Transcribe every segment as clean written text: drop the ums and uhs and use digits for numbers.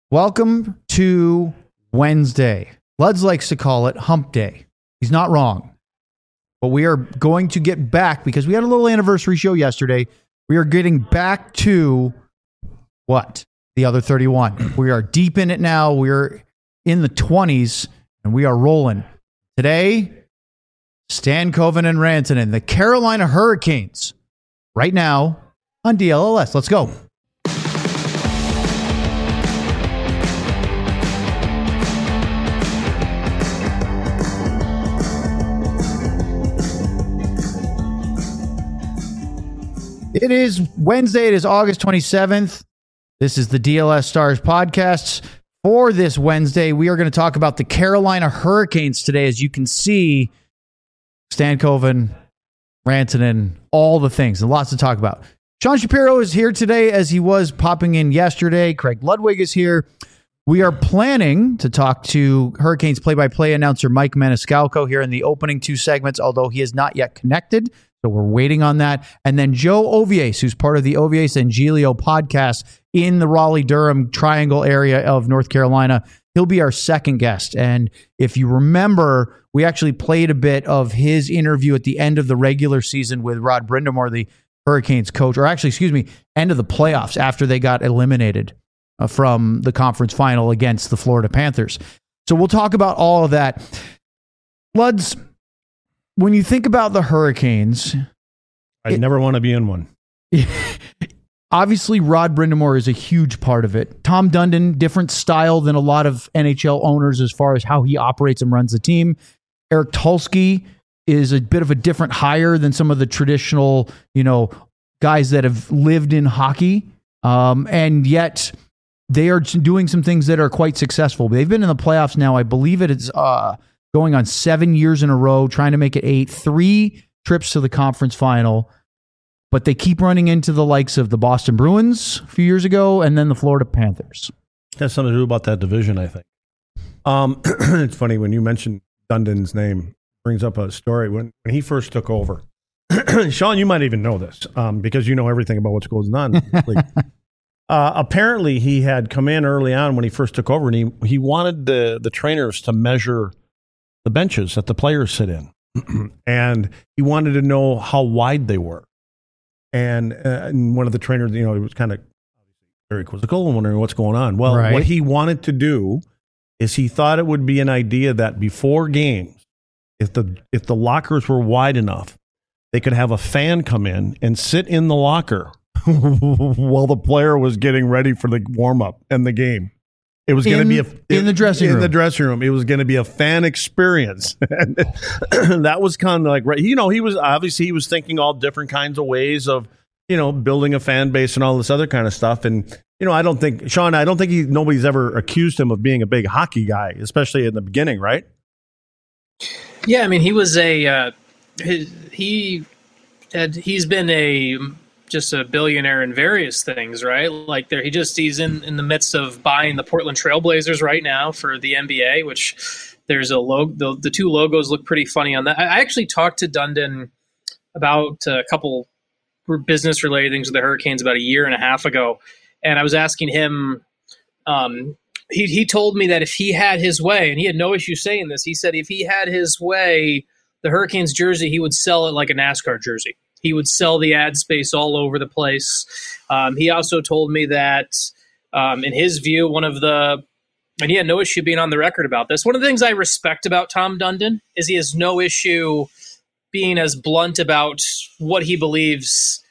Welcome to Wednesday. Luds likes to call it Hump Day. He's not wrong. But we are going to get back, because we had a little anniversary show yesterday. We are getting back to what? The other 31. We are deep in it now. We're in the 20s, and we are rolling. Today, Stankoven and Rantanen, the Carolina Hurricanes, right now on DLLS. Let's go. It is Wednesday. It is August 27th. This is the DLS Stars podcast. For this Wednesday, we are going to talk about the Carolina Hurricanes today. As you can see, Stankoven, Rantanen, all the things, and lots to talk about. Sean Shapiro is here today, as he was popping in yesterday. Craig Ludwig is here. We are planning to talk to Hurricanes play-by-play announcer Mike Maniscalco here in the opening two segments, although he is not yet connected. So we're waiting on that. And then Joe Ovies, who's part of the Ovies and Giglio podcast in the Raleigh-Durham Triangle area of North Carolina. He'll be our second guest. And if you remember, we actually played a bit of his interview at the end of the regular season with Rod Brindamore, the Hurricanes coach, or actually, end of the playoffs after they got eliminated from the conference final against the Florida Panthers. So we'll talk about all of that. Luds, when you think about the Hurricanes, I never want to be in one. Obviously, Rod Brindamore is a huge part of it. Tom Dundon, different style than a lot of NHL owners as far as how he operates and runs the team. Eric Tulsky is a bit of a different hire than some of the traditional, guys that have lived in hockey. And yet they are doing some things that are quite successful. They've been in the playoffs now. I believe it is going on 7 years in a row, trying to make it 8, 3 trips to the conference final. But they keep running into the likes of the Boston Bruins a few years ago and then the Florida Panthers. Has something to do about that division, I think. It's funny when you mentioned Dundon's name, brings up a story. When he first took over, Sean, you might even know this because you know everything about what's going on. Apparently, he had come in early on when he first took over, and he wanted the trainers to measure the benches that the players sit in. And he wanted to know how wide they were. And one of the trainers, he was kind of very quizzical and wondering what's going on. Well, What he wanted to do is he thought it would be an idea that before games, if the lockers were wide enough, they could have a fan come in and sit in the locker while the player was getting ready for the warm-up and the game. It was going to be in the dressing room. In the dressing room, it was going to be a fan experience, and that was kind of like he was thinking all different kinds of ways of building a fan base and all this other kind of stuff. And I don't think nobody's ever accused him of being a big hockey guy, especially in the beginning, right? Yeah, I mean, he was he's been just a billionaire in various things, right? Like he's in the midst of buying the Portland Trailblazers right now for the NBA, which there's a logo. The two logos look pretty funny on that. I actually talked to Dundon about a couple business related things with the Hurricanes about a year and a half ago. And I was asking him, he told me that if he had his way, and he had no issue saying this, he said if he had his way, the Hurricanes jersey, he would sell it like a NASCAR jersey. He would sell the ad space all over the place. He also told me that, in his view, and he had no issue being on the record about this. One of the things I respect about Tom Dundon is he has no issue being as blunt about what he believes.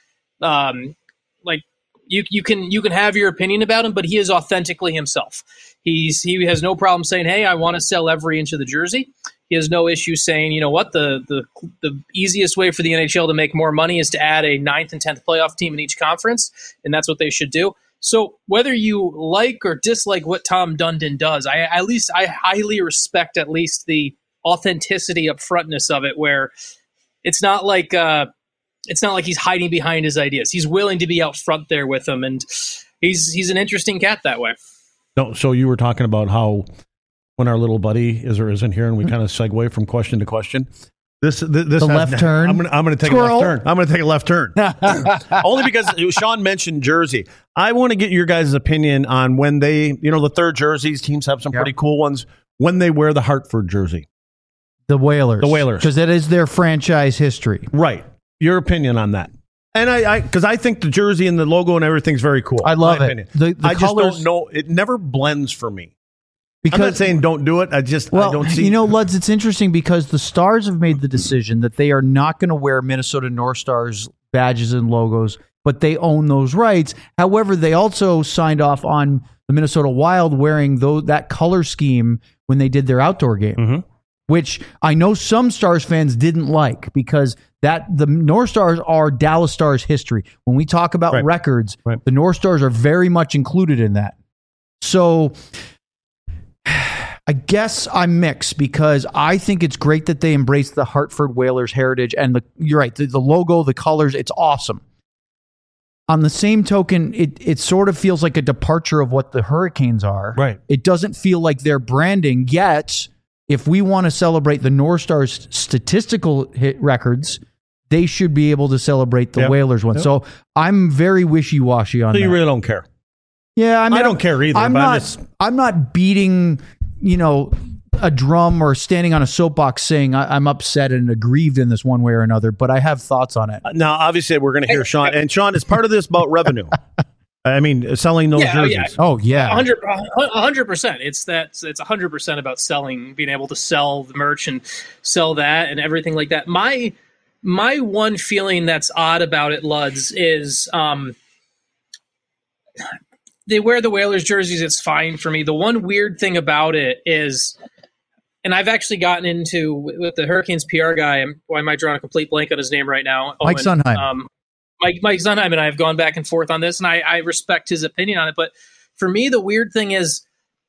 You can have your opinion about him, but he is authentically himself. He has no problem saying, "Hey, I want to sell every inch of the jersey." He has no issue saying, you know what, the easiest way for the NHL to make more money is to add a 9th and 10th playoff team in each conference, and that's what they should do. So whether you like or dislike what Tom Dundon does, I highly respect at least the authenticity, upfrontness of it, where it's not like he's hiding behind his ideas. He's willing to be out front there with them, and he's an interesting cat that way. No, so you were talking about how when our little buddy is or isn't here, and we kind of segue from question to question. This left turn. I'm going to take Squirrel. a left turn. I'm going to take a left turn. Only because Sean mentioned jersey. I want to get your guys' opinion on when they, the third jerseys, teams have some pretty cool ones, when they wear the Hartford jersey. The Whalers. Because that is their franchise history. Right. Your opinion on that. And because I think the jersey and the logo and everything's very cool. I love it. I just don't know. It never blends for me. Because, I'm not saying don't do it. I don't see. Luds, it's interesting because the Stars have made the decision that they are not going to wear Minnesota North Stars badges and logos, but they own those rights. However, they also signed off on the Minnesota Wild wearing that color scheme when they did their outdoor game, which I know some Stars fans didn't like because the North Stars are Dallas Stars history. When we talk about records, the North Stars are very much included in that. So I guess I'm mixed because I think it's great that they embrace the Hartford Whalers heritage and you're right, the logo, the colors, it's awesome. On the same token, it sort of feels like a departure of what the Hurricanes are. Right. It doesn't feel like they're branding yet. If we want to celebrate the North Stars statistical hit records, they should be able to celebrate the Whalers one. So I'm very wishy-washy on that. So you really don't care? Yeah, I mean, I don't care either. I'm not beating, a drum or standing on a soapbox saying I'm upset and aggrieved in this one way or another, but I have thoughts on it. Now, obviously, we're going to hear Sean. And Sean, is part of this about revenue? I mean, selling those jerseys. Yeah. Oh, yeah. 100%. It's 100% about selling, being able to sell the merch and sell that and everything like that. My one feeling that's odd about it, Luds, is they wear the Whalers jerseys. It's fine for me. The one weird thing about it is, and I've actually gotten into with the Hurricanes PR guy. I might draw a complete blank on his name right now. Mike Sundheim. Mike Sundheim and I have gone back and forth on this, and I respect his opinion on it. But for me, the weird thing is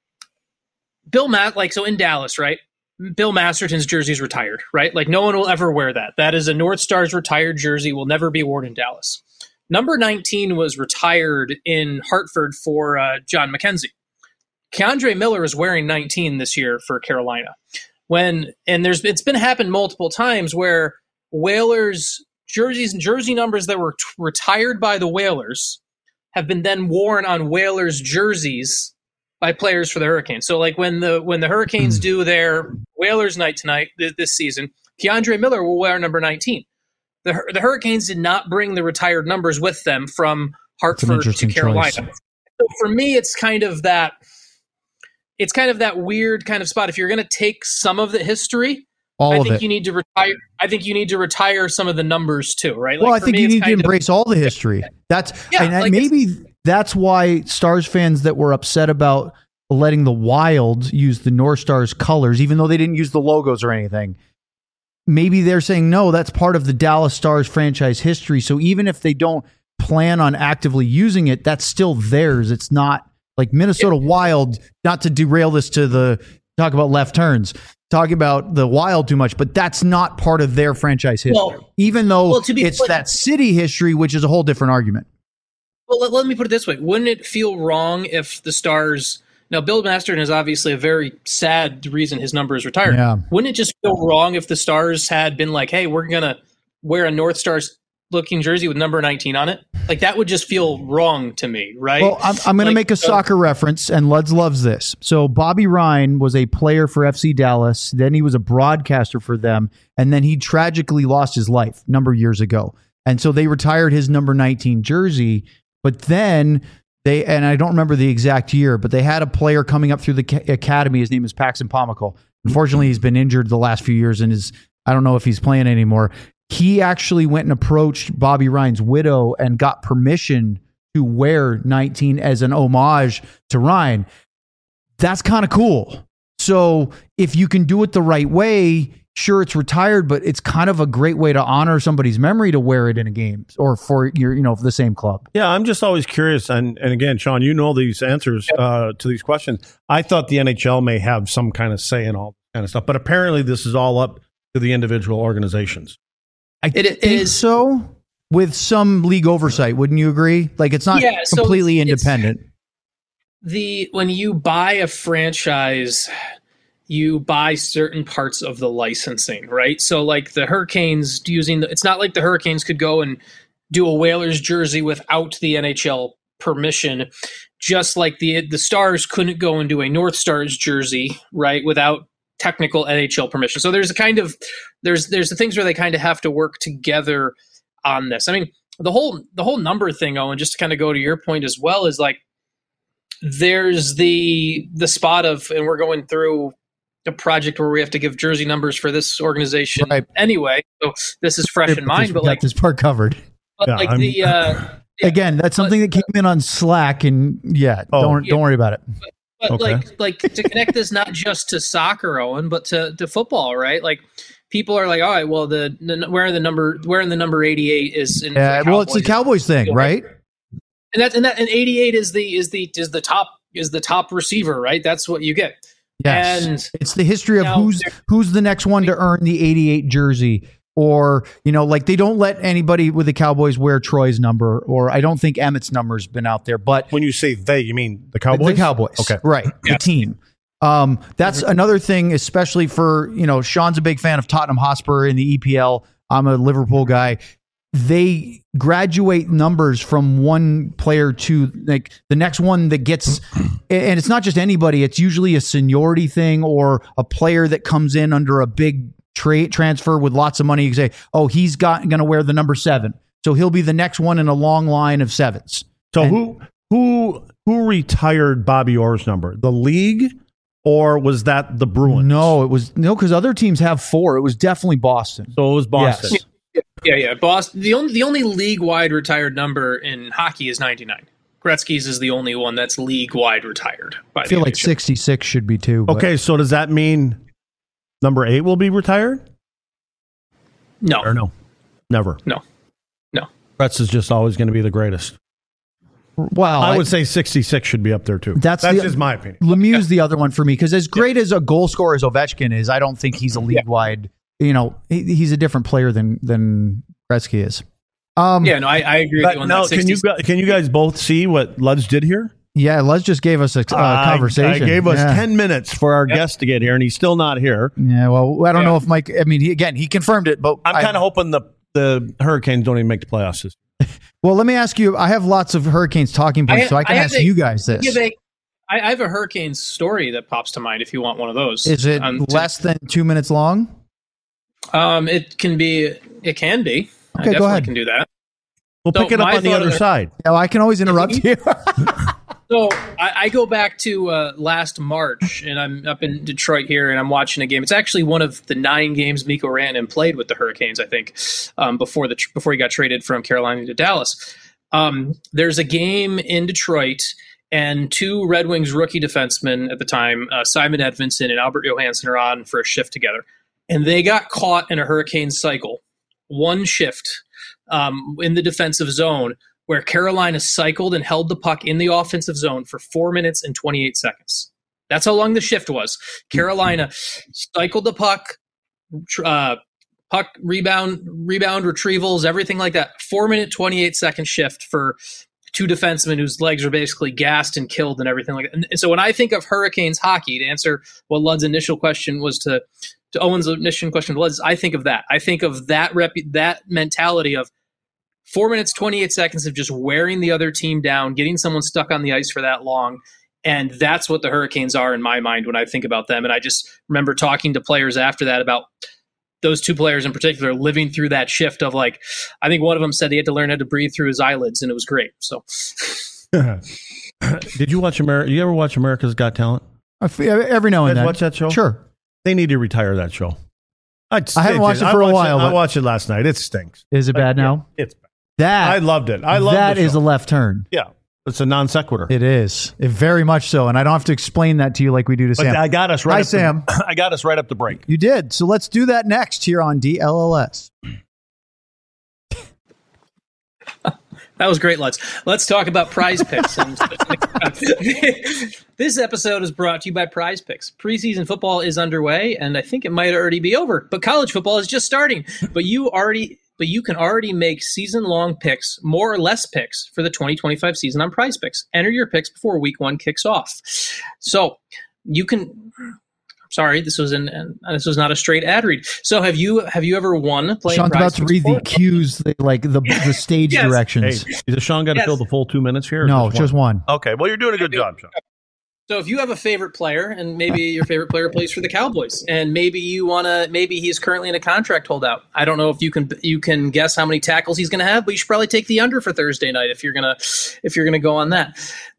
so in Dallas, right? Bill Masterton's jersey is retired, right? Like no one will ever wear that. That is a North Stars retired jersey, will never be worn in Dallas. Number 19 was retired in Hartford for John McKenzie. Keandre Miller is wearing 19 this year for Carolina. It's been happened multiple times where Whalers jerseys and jersey numbers that were retired by the Whalers have been then worn on Whalers jerseys by players for the Hurricanes. So like when the Hurricanes do their Whalers night tonight this season, Keandre Miller will wear number 19. The Hurricanes did not bring the retired numbers with them from Hartford to Carolina. Choice. So for me, it's kind of that weird kind of spot. If you're going to take some of the history, I think you need to retire. I think you need to retire some of the numbers too, right? Well, I think you need to embrace all the history. Maybe that's why Stars fans that were upset about letting the Wild use the North Stars colors, even though they didn't use the logos or anything. Maybe they're saying, no, that's part of the Dallas Stars franchise history. So even if they don't plan on actively using it, that's still theirs. It's not like Minnesota Wild, not to derail this to talk about left turns, talking about the Wild too much, but that's not part of their franchise history. Even though it's that city history, which is a whole different argument. Well, let me put it this way. Wouldn't it feel wrong if the Stars... Now, Bill Masterton is obviously a very sad reason his number is retired. Yeah. Wouldn't it just feel wrong if the Stars had been like, hey, we're going to wear a North Stars looking jersey with number 19 on it? Like, that would just feel wrong to me, right? Well, I'm going to make a soccer reference, and Luds loves this. So Bobby Ryan was a player for FC Dallas. Then he was a broadcaster for them, and then he tragically lost his life a number of years ago. And so they retired his number 19 jersey, but then... and I don't remember the exact year, but they had a player coming up through the academy. His name is Paxton Pomykal. Unfortunately, he's been injured the last few years and I don't know if he's playing anymore. He actually went and approached Bobby Ryan's widow and got permission to wear 19 as an homage to Ryan. That's kind of cool. So if you can do it the right way, sure, it's retired, but it's kind of a great way to honor somebody's memory to wear it in a game or for your, for the same club. Yeah, I'm just always curious. And again, Sean, you know these answers to these questions. I thought the NHL may have some kind of say in all kind of stuff, but apparently this is all up to the individual organizations. It is so with some league oversight. Wouldn't you agree? Like it's not completely independent. When you buy a franchise, you buy certain parts of the licensing, right? So like the Hurricanes it's not like the Hurricanes could go and do a Whalers jersey without the NHL permission, just like the Stars couldn't go and do a North Stars jersey, right, without technical NHL permission. So there's the things where they kind of have to work together on this. I mean, the whole number thing, Owen, just to kind of go to your point as well, is like there's the spot of, and we're going through a project where we have to give jersey numbers for this organization anyway. So this is fresh in mind, but like this part covered. But yeah, like again, that's something that came in on Slack, and don't worry about it. But okay. like to connect this not just to soccer, Owen, but to football, right? Like people are like, all right, well, wearing the number 88 is in well, it's the Cowboys thing, right? And 88 is the top receiver, right? That's what you get. Yes. And it's the history of who's the next one to earn the 88 jersey. Or, like they don't let anybody with the Cowboys wear Troy's number, or I don't think Emmett's number's been out there. But when you say they, you mean the Cowboys? The Cowboys. Okay. Right. Yeah. The team. That's another thing, especially for, Sean's a big fan of Tottenham Hotspur in the EPL. I'm a Liverpool guy. They graduate numbers from one player to like the next one that gets, and it's not just anybody. It's usually a seniority thing or a player that comes in under a big transfer with lots of money. You say, oh, he's going to wear the number 7, so he'll be the next one in a long line of 7s. So who retired Bobby Orr's number? The league, or was that the Bruins? No, because other teams have 4. It was definitely Boston. So it was Boston. Yes. Yeah. Boston. The only league-wide retired number in hockey is 99. Gretzky's is the only one that's league-wide retired. I feel like 66 should be too. Okay, so does that mean number 8 will be retired? No. Or no? Never. No. Gretz is just always going to be the greatest. Well, I would say 66 should be up there too. That's just my opinion. Lemieux's the other one for me, because as great as a goal scorer as Ovechkin is, I don't think he's a league-wide. He's a different player than Gretzky is. I agree with you on now, that. Can you guys both see what Lutz did here? Yeah, Les just gave us a conversation. I gave us 10 minutes for our guest to get here, and he's still not here. Yeah, well, I don't know if Mike. I mean, he confirmed it, but I'm kind of hoping the Hurricanes don't even make the playoffs. Well, let me ask you. I have lots of Hurricanes talking points, so I can ask you guys this. I have a Hurricanes story that pops to mind if you want one of those. Is it less than 2 minutes long? It can be. Okay, go ahead. Can do that. We'll pick it up on the other side. Yeah, I can always interrupt you. So I go back to last March, and I'm up in Detroit here, and I'm watching a game. It's actually one of the 9 games Mikko Rantanen played with the Hurricanes, I think, before he got traded from Carolina to Dallas. There's a game in Detroit, and 2 Red Wings rookie defensemen at the time, Simon Edvinsson and Albert Johansson, are on for a shift together. And they got caught in a Hurricane cycle, one shift in the defensive zone, where Carolina cycled and held the puck in the offensive zone for 4 minutes and 28 seconds. That's how long the shift was. Carolina cycled the puck, rebound retrievals, everything like that. 4-minute, 28-second shift for 2 defensemen whose legs are basically gassed and killed and everything like that. And so when I think of Hurricanes hockey, to answer what Lud's initial question was to Owen's initial question to Lud's, I think of that. I think of that mentality of 4 minutes, 28 seconds of just wearing the other team down, getting someone stuck on the ice for that long. And that's what the Hurricanes are in my mind when I think about them. And I just remember talking to players after that about those 2 players in particular living through that shift of, like, I think one of them said he had to learn how to breathe through his eyelids, and it was great. So, did you watch you ever watch America's Got Talent? Every now and then. Watch that show? Sure. They need to retire that show. I haven't watched it for a while. I watched it last night. It stinks. Is it bad now? It's bad. I loved it. That is a left turn. Yeah. It's a non sequitur. It is. Very much so. And I don't have to explain that to you like we do to Sam. I got us right Hi, Sam. I got us right up the break. You did. So let's do that next here on DLLS. That was great, Let's talk about Prize Picks. This episode is brought to you by Prize Picks. Preseason football is underway, and I think it might already be over. But college football is just starting. But you can already make season-long picks, more or less picks, for the 2025 season on Prize Picks. Enter your picks before Week 1 kicks off. So you can Sorry, this was not a straight ad read. So have you ever won playing? Sean's about to read the cues, the stage Yes. directions. Hey, does Sean got to fill the full 2 minutes here? Or No, just one. Okay, well, you're doing a good job, Sean. So if you have a favorite player, and maybe your favorite player plays for the Cowboys, and maybe he's currently in a contract holdout. I don't know if you can guess how many tackles he's going to have, but you should probably take the under for Thursday night if you're gonna go on that.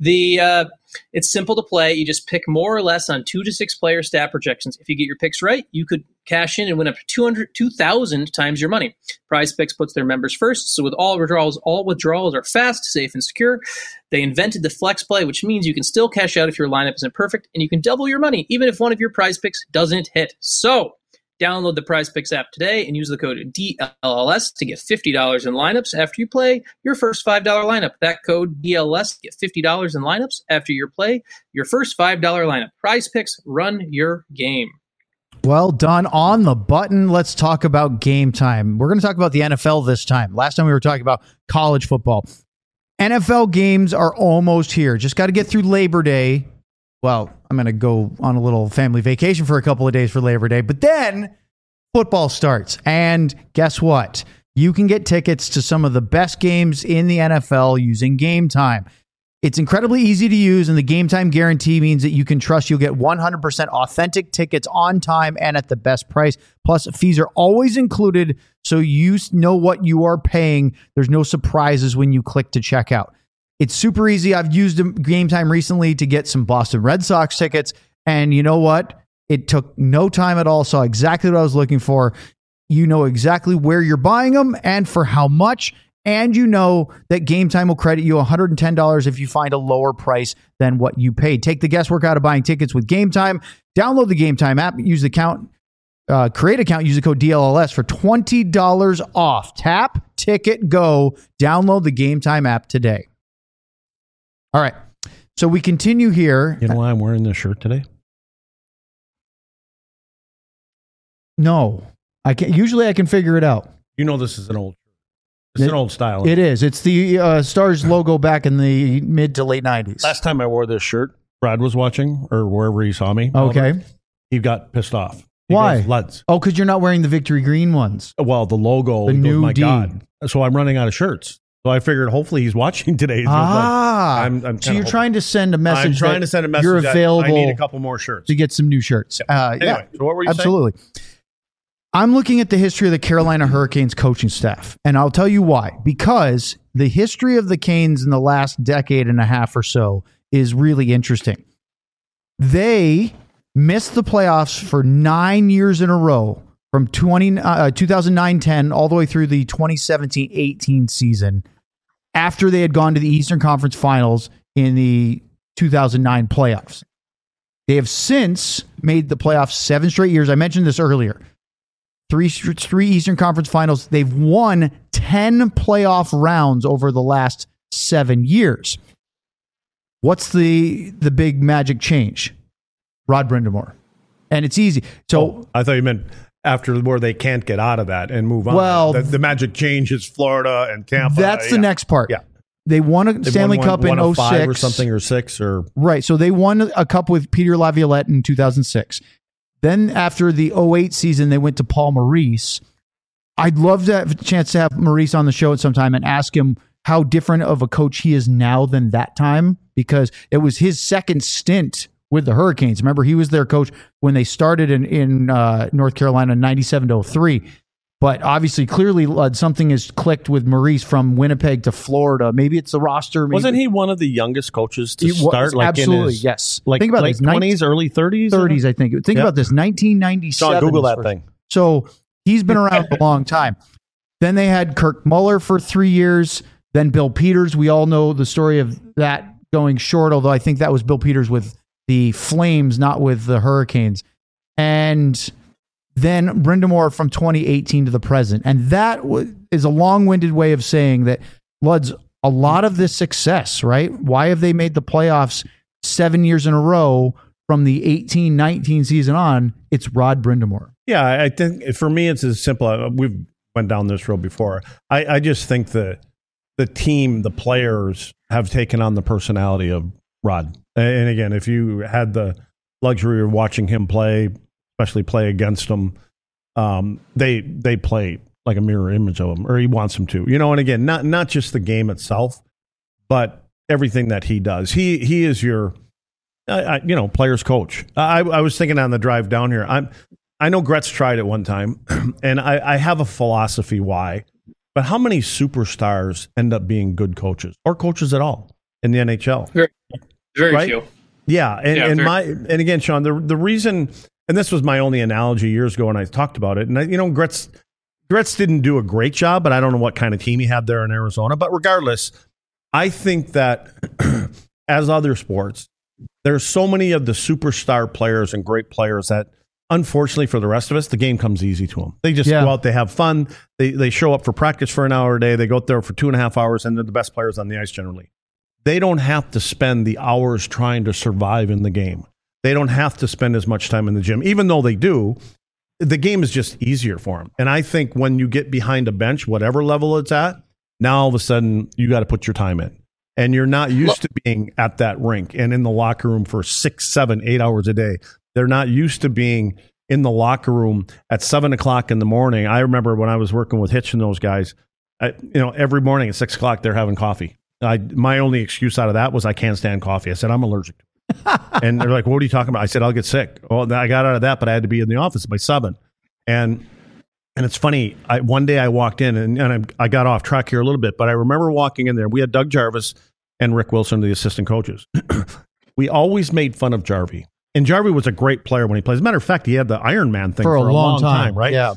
It's simple to play. You just pick more or less on 2 to 6 player stat projections. If you get your picks right, you could cash in and win up to 2,000 times your money. Prize Picks puts their members first, so with all withdrawals are fast, safe, and secure. They invented the flex play, which means you can still cash out if your lineup isn't perfect, and you can double your money even if one of your Prize Picks doesn't hit. So download the Prize Picks app today and use the code DLS to get $50 in lineups after you play your first $5 lineup. That code DLS to get $50 in lineups after you play your first $5 lineup. Prize Picks, run your game. Well done. On the button, let's talk about game time. We're going to talk about the NFL this time. Last time we were talking about college football. NFL games are almost here. Just got to get through Labor Day. Well, I'm going to go on a little family vacation for a couple of days for Labor Day, but then football starts. And guess what? You can get tickets to some of the best games in the NFL using Game Time. It's incredibly easy to use, and the Game Time guarantee means that you can trust you'll get 100% authentic tickets on time and at the best price. Plus, fees are always included, so you know what you are paying. There's no surprises when you click to check out. It's super easy. I've used Game Time recently to get some Boston Red Sox tickets, and you know what? It took no time at all. Saw exactly what I was looking for. You know exactly where you're buying them and for how much. And you know that Game Time will credit you $110 if you find a lower price than what you paid. Take the guesswork out of buying tickets with Game Time. Download the Game Time app. Use the create an account. Use the code DLLS for $20 off. Tap, ticket, go. Download the Game Time app today. All right. So we continue here. You know why I'm wearing this shirt today? No, I can. Usually I can figure it out. You know this is an old. It's an old style. It is. It's the Stars logo back in the mid to late 90s. Last time I wore this shirt, Brad was watching, or wherever he saw me. Okay. He got pissed off. Why? Luds. Oh, because you're not wearing the Victory Green ones. Well, the logo. The new my D. God. So I'm running out of shirts. So I figured hopefully he's watching today. So you're trying to send a message. I'm trying to send a message. You're available. I need a couple more shirts to get some new shirts. Anyway, so what were you saying? Absolutely. I'm looking at the history of the Carolina Hurricanes coaching staff, and I'll tell you why. Because the history of the Canes in the last decade and a half or so is really interesting. They missed the playoffs for 9 years in a row from 2009-10 all the way through the 2017-18 season after they had gone to the Eastern Conference Finals in the 2009 playoffs. They have since made the playoffs 7 straight years. I mentioned this earlier. Three Eastern Conference Finals. They've won 10 playoff rounds over the last 7 years. What's the big magic change? Rod Brind'Amour. And it's easy. So I thought you meant after where they can't get out of that and move on. Well, the magic change is Florida and Tampa. That's the next part. Yeah. They won a Stanley Cup in 06 or something, or 6 or right. So they won a cup with Peter Laviolette in 2006. Then after the 08 season, they went to Paul Maurice. I'd love to have a chance to have Maurice on the show at some time and ask him how different of a coach he is now than that time, because it was his second stint with the Hurricanes. Remember, he was their coach when they started in North Carolina in 97-03. But obviously, clearly, something has clicked with Maurice from Winnipeg to Florida. Maybe it's the roster. Wasn't he one of the youngest coaches to start? Absolutely, yes. Think about late 20s, early 30s? 30s, I think. Think about this, 1997. Sean, Google that thing. So he's been around a long time. Then they had Kirk Muller for 3 years. Then Bill Peters. We all know the story of that going short, although I think that was Bill Peters with the Flames, not with the Hurricanes. And then Brind'Amour from 2018 to the present. And that is a long-winded way of saying that, Luds, a lot of this success, right? Why have they made the playoffs 7 years in a row from the 18-19 season on? It's Rod Brind'Amour. Yeah, I think for me it's as simple. We've went down this road before. I just think the team, the players have taken on the personality of Rod. And again, if you had the luxury of watching him play, especially play against him. They play like a mirror image of him, or he wants them to. And again, not just the game itself, but everything that he does. He is your player's coach. I was thinking on the drive down here. I know Gretz tried it one time, and I have a philosophy why. But how many superstars end up being good coaches or coaches at all in the NHL? Very right? few. Yeah, and again, Sean, the reason, and this was my only analogy years ago when I talked about it, and Gretz didn't do a great job, but I don't know what kind of team he had there in Arizona. But regardless, I think that as other sports, there's so many of the superstar players and great players that, unfortunately for the rest of us, the game comes easy to them. They just go out, they have fun, they show up for practice for an hour a day, they go out there for 2.5 hours, and they're the best players on the ice generally. They don't have to spend the hours trying to survive in the game. They don't have to spend as much time in the gym, even though they do. The game is just easier for them. And I think when you get behind a bench, whatever level it's at, now all of a sudden you got to put your time in. And you're not used to being at that rink and in the locker room for 6, 7, 8 hours a day. They're not used to being in the locker room at 7 o'clock in the morning. I remember when I was working with Hitch and those guys, every morning at 6 o'clock, they're having coffee. My only excuse out of that was I can't stand coffee. I said, I'm allergic to it. And they're like, what are you talking about? I said, I'll get sick. Well, I got out of that, but I had to be in the office by 7. And it's funny. One day I walked in and I got off track here a little bit, but I remember walking in there. We had Doug Jarvis and Rick Wilson, the assistant coaches. We always made fun of Jarvie. And Jarvie was a great player when he plays. As a matter of fact, he had the Iron Man thing for a long time, right? Yeah.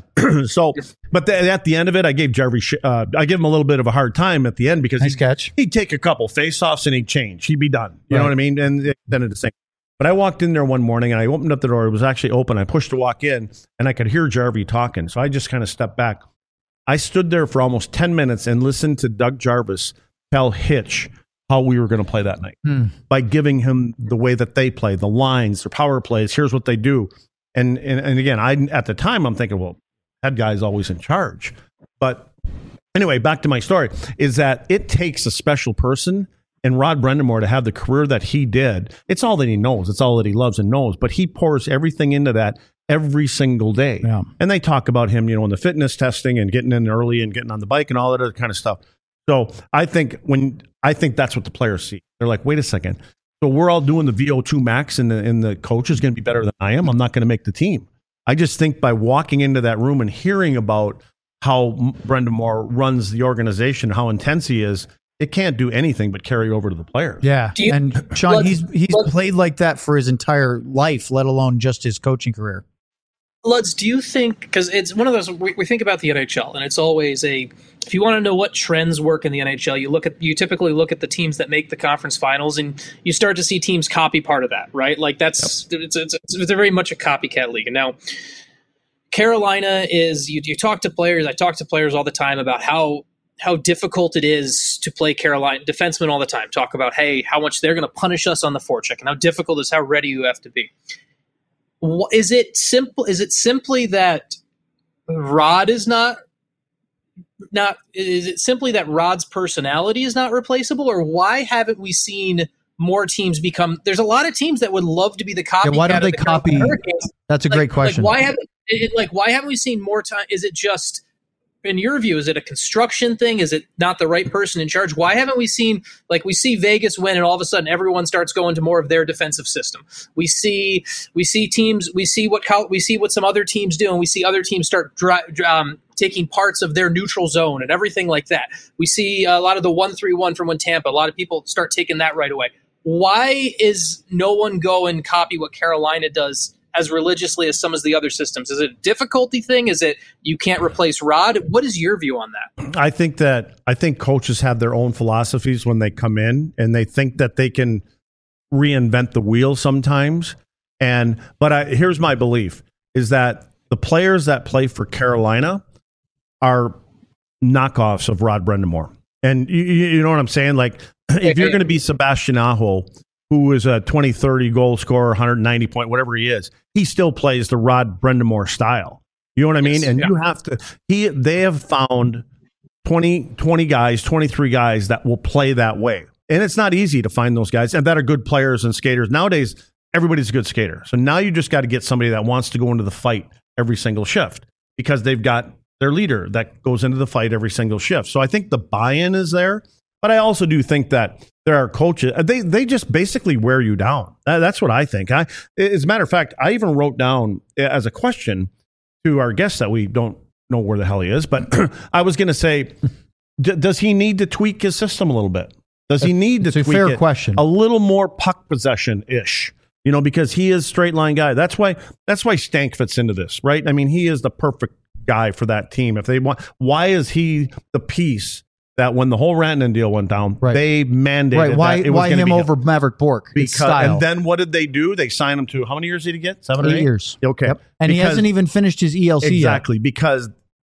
But at the end of it, I gave Jarvie, I gave him a little bit of a hard time at the end because he'd take a couple face-offs and he'd change. He'd be done. You know what I mean? And then it's the same. But I walked in there one morning and I opened up the door. It was actually open. I pushed to walk in and I could hear Jarvie talking. So I just kind of stepped back. I stood there for almost 10 minutes and listened to Doug Jarvis tell Hitch how we were going to play that night by giving him the way that they play, the lines, their power plays. Here's what they do. And again, at the time, I'm thinking, well, that guy's always in charge. But anyway, back to my story is that it takes a special person and Rod Brind'Amour to have the career that he did. It's all that he knows. It's all that he loves and knows. But he pours everything into that every single day. Yeah. And they talk about him, in the fitness testing and getting in early and getting on the bike and all that other kind of stuff. So I think that's what the players see. They're like, wait a second. So we're all doing the VO2 max and the coach is going to be better than I am. I'm not going to make the team. I just think by walking into that room and hearing about how Brind'Amour runs the organization, how intense he is, it can't do anything but carry over to the players. Yeah. And Sean, he's played like that for his entire life, let alone just his coaching career. Lutz, do you think, because it's one of those, we think about the NHL, and it's always if you want to know what trends work in the NHL, you typically look at the teams that make the conference finals, and you start to see teams copy part of that, right? Like it's very much a copycat league. And now, Carolina is, you talk to players, I talk to players all the time about how difficult it is to play Carolina, defensemen all the time, talk about, hey, how much they're going to punish us on the forecheck, and how difficult is how ready you have to be. Is it simply that Rod is not? Is it simply that Rod's personality is not replaceable, or why haven't we seen more teams become? There's a lot of teams that would love to be the copycat. Yeah, why don't they copy? That's a great question. Why haven't we seen more time? Is it just, in your view, is it a construction thing? Is it not the right person in charge? Why haven't we seen, we see Vegas win and all of a sudden everyone starts going to more of their defensive system? We see teams, we see what some other teams do, and we see other teams start taking parts of their neutral zone and everything like that. We see a lot of the 1-3-1 from when Tampa, a lot of people start taking that right away. Why is no one go and copy what Carolina does as religiously as some of the other systems? Is it a difficulty thing? Is it you can't replace Rod? What is your view on that? I think coaches have their own philosophies when they come in, and they think that they can reinvent the wheel sometimes. But here's my belief is that the players that play for Carolina are knockoffs of Rod Brind'Amour. And you know what I'm saying? If you're going to be Sebastian Aho, who is a 20-30 goal scorer, 190 point, whatever he is, he still plays the Rod Brind'Amour style. You know what I mean? And you have to, they have found 20 guys, 23 guys that will play that way. And it's not easy to find those guys and that are good players and skaters. Nowadays, everybody's a good skater. So now you just got to get somebody that wants to go into the fight every single shift because they've got their leader that goes into the fight every single shift. So I think the buy-in is there, but I also do think that there are coaches, they just basically wear you down. That's what I think. As a matter of fact, I even wrote down as a question to our guest that we don't know where the hell he is, but I was going to say, does he need to tweak his system a little bit? Does he need to tweak fair it question. a little more puck possession-ish? You know, because he is straight line guy. That's why Stank fits into this, right? I mean, he is the perfect guy for that team. If they want, why is he the piece that when the whole Rantanen deal went down, they mandated why that it was why him over Maverick Bourque? And then what did they do? They signed him to how many years did he get? 7 or 8 years. Okay, and he hasn't even finished his ELC exactly because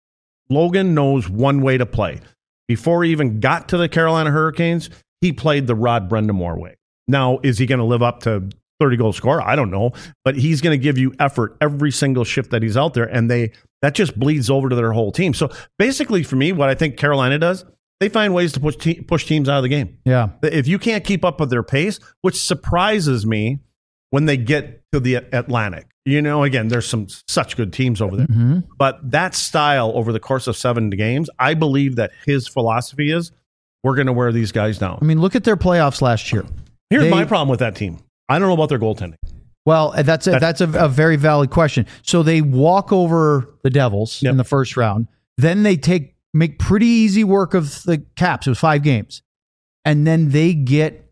Logan knows one way to play. Before he even got to the Carolina Hurricanes, he played the Rod Brind'Amour way. Now, is he going to live up to 30-goal scorer? I don't know. But he's going to give you effort every single shift that he's out there, and that just bleeds over to their whole team. So basically, for me, what I think Carolina does, they find ways to push teams out of the game. Yeah. If you can't keep up with their pace, which surprises me when they get to the Atlantic. You know, again, there's some such good teams over there. Mm-hmm. But that style over the course of 7 games, I believe that his philosophy is we're going to wear these guys down. I mean, look at their playoffs last year. Here's my problem with that team. I don't know about their goaltending. Well, that's a very valid question. So they walk over the Devils in the first round. Then they make pretty easy work of the Caps. It was 5 games. And then they get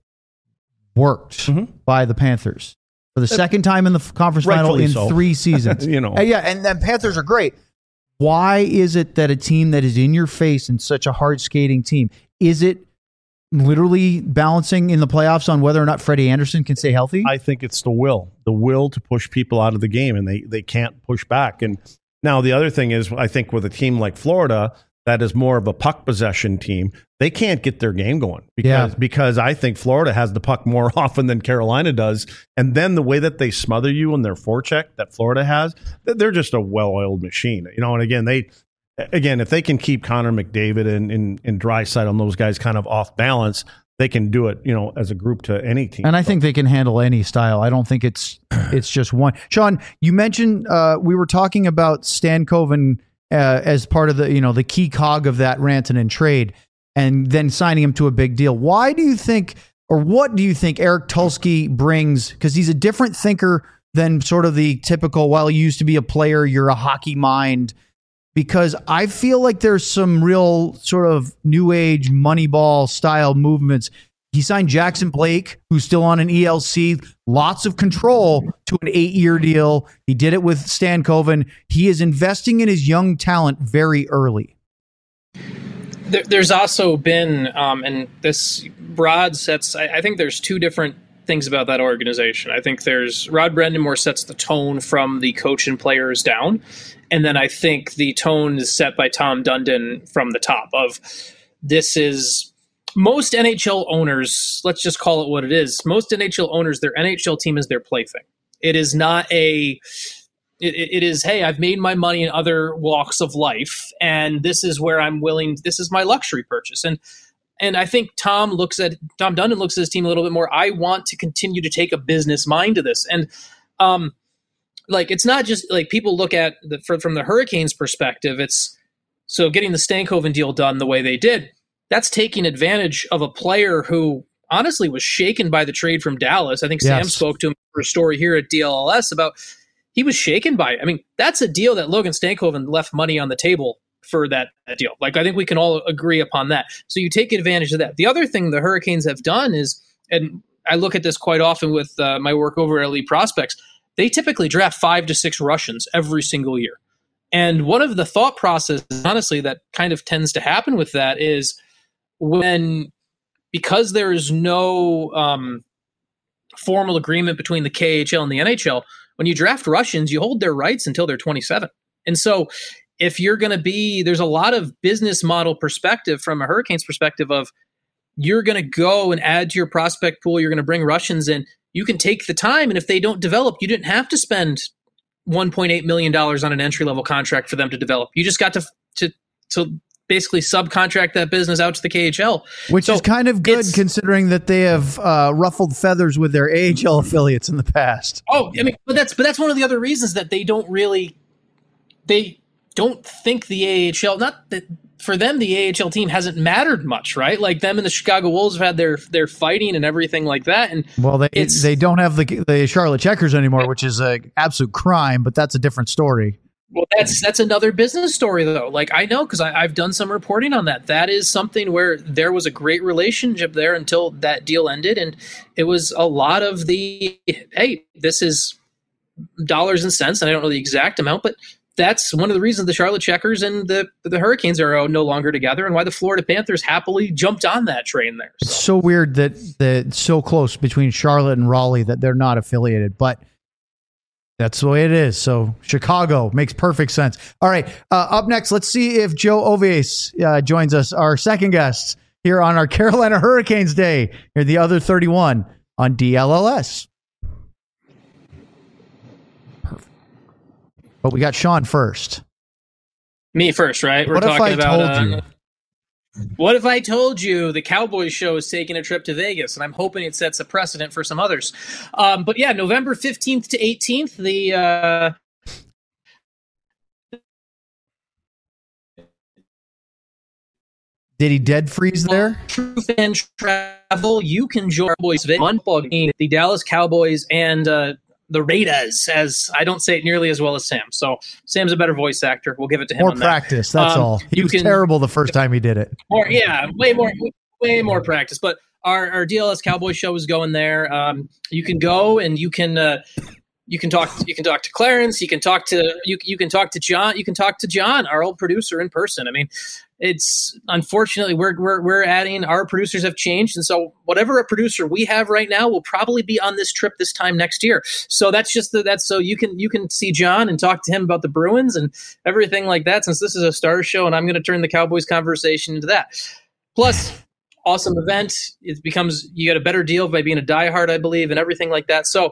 worked by the Panthers for the second time in the conference final in 3 seasons. You know. And then Panthers are great. Why is it that a team that is in your face and such a hard skating team, is it literally balancing in the playoffs on whether or not Freddie Anderson can stay healthy? I think it's the will to push people out of the game, and they can't push back. And now the other thing is, I think with a team like Florida, that is more of a puck possession team, they can't get their game going because I think Florida has the puck more often than Carolina does. And then the way that they smother you in their forecheck that Florida has, they're just a well-oiled machine. You know, and again, if they can keep Connor McDavid and Draisaitl and those guys kind of off balance, they can do it, you know, as a group to any team. And I think they can handle any style. I don't think it's just one. Sean, you mentioned we were talking about Stankoven as part of the key cog of that Rantanen trade, and then signing him to a big deal. Why do you think, or what do you think Eric Tulsky brings? Because he's a different thinker than sort of the typical, well, you used to be a player, you're a hockey mind. Because I feel like there's some real sort of new age Moneyball style movements. He signed Jackson Blake, who's still on an ELC, lots of control, to an 8-year deal. He did it with Stankoven. He is investing in his young talent very early. There's also been, and this Rod sets, I think there's 2 different things about that organization. I think there's Rod Brind'Amour sets the tone from the coach and players down. And then I think the tone is set by Tom Dundon from the top of this is most NHL owners, let's just call it what it is. Most NHL owners, their NHL team is their plaything. It is not it is, hey, I've made my money in other walks of life, and this is where this is my luxury purchase. And I think Tom Dundon looks at his team a little bit more. I want to continue to take a business mind to this. And, it's not just like people look at from the Hurricanes perspective. It's so getting the Stankoven deal done the way they did. That's taking advantage of a player who honestly was shaken by the trade from Dallas. I think Sam spoke to him for a story here at DLLS about he was shaken by it. I mean, that's a deal that Logan Stankoven left money on the table for that deal. Like, I think we can all agree upon that. So you take advantage of that. The other thing the Hurricanes have done is, and I look at this quite often with my work over at Elite Prospects, they typically draft 5 to 6 Russians every single year. And one of the thought processes, honestly, that kind of tends to happen with that is because there is no formal agreement between the KHL and the NHL, when you draft Russians, you hold their rights until they're 27. And so if you're going to there's a lot of business model perspective from a Hurricanes perspective of you're going to go and add to your prospect pool, you're going to bring Russians in, you can take the time, and if they don't develop, you didn't have to spend $1.8 million on an entry-level contract for them to develop. You just got to basically subcontract that business out to the KHL. Which is kind of good considering that they have ruffled feathers with their AHL affiliates in the past. Oh, I mean, but that's one of the other reasons that they don't think the AHL, not that for them, the AHL team hasn't mattered much, right? Like them and the Chicago Wolves have had their fighting and everything like that. And well, they don't have the Charlotte Checkers anymore, which is an absolute crime, but that's a different story. Well, that's another business story, though. Like, I know because I've done some reporting on that. That is something where there was a great relationship there until that deal ended. And it was a lot of the, hey, this is dollars and cents, and I don't know the exact amount, but that's one of the reasons the Charlotte Checkers and the Hurricanes are no longer together, and why the Florida Panthers happily jumped on that train there. It's so weird that it's so close between Charlotte and Raleigh that they're not affiliated, but that's the way it is. So Chicago makes perfect sense. All right, up next, let's see if Joe Ovies joins us, our second guest here on our Carolina Hurricanes Day, here the other 31 on DLLS. Perfect. But we got Sean first. Me first, right? We're talking about. What if I told you the Cowboys show is taking a trip to Vegas, and I'm hoping it sets a precedent for some others. But yeah, November 15th to 18th, the Did he dead freeze there? True Fan Travel. You can join Cowboys one ball game, the Dallas Cowboys and the Raiders, as I don't say it nearly as well as Sam. So Sam's a better voice actor. We'll give it to him. More practice. That's all. He was terrible the first time he did it. Way more practice. But our DLS Cowboy show is going there. You can go and you can talk to Clarence. You can talk to John. You can talk to John, our old producer, in person. I mean, it's unfortunately we're adding, our producers have changed, and so whatever a producer we have right now will probably be on this trip this time next year. So that's just that's so you can see John and talk to him about the Bruins and everything like that, since this is a Stars show, and I'm going to turn the Cowboys conversation into that. Plus, awesome event. It becomes, you get a better deal by being a diehard, I believe, and everything like that. So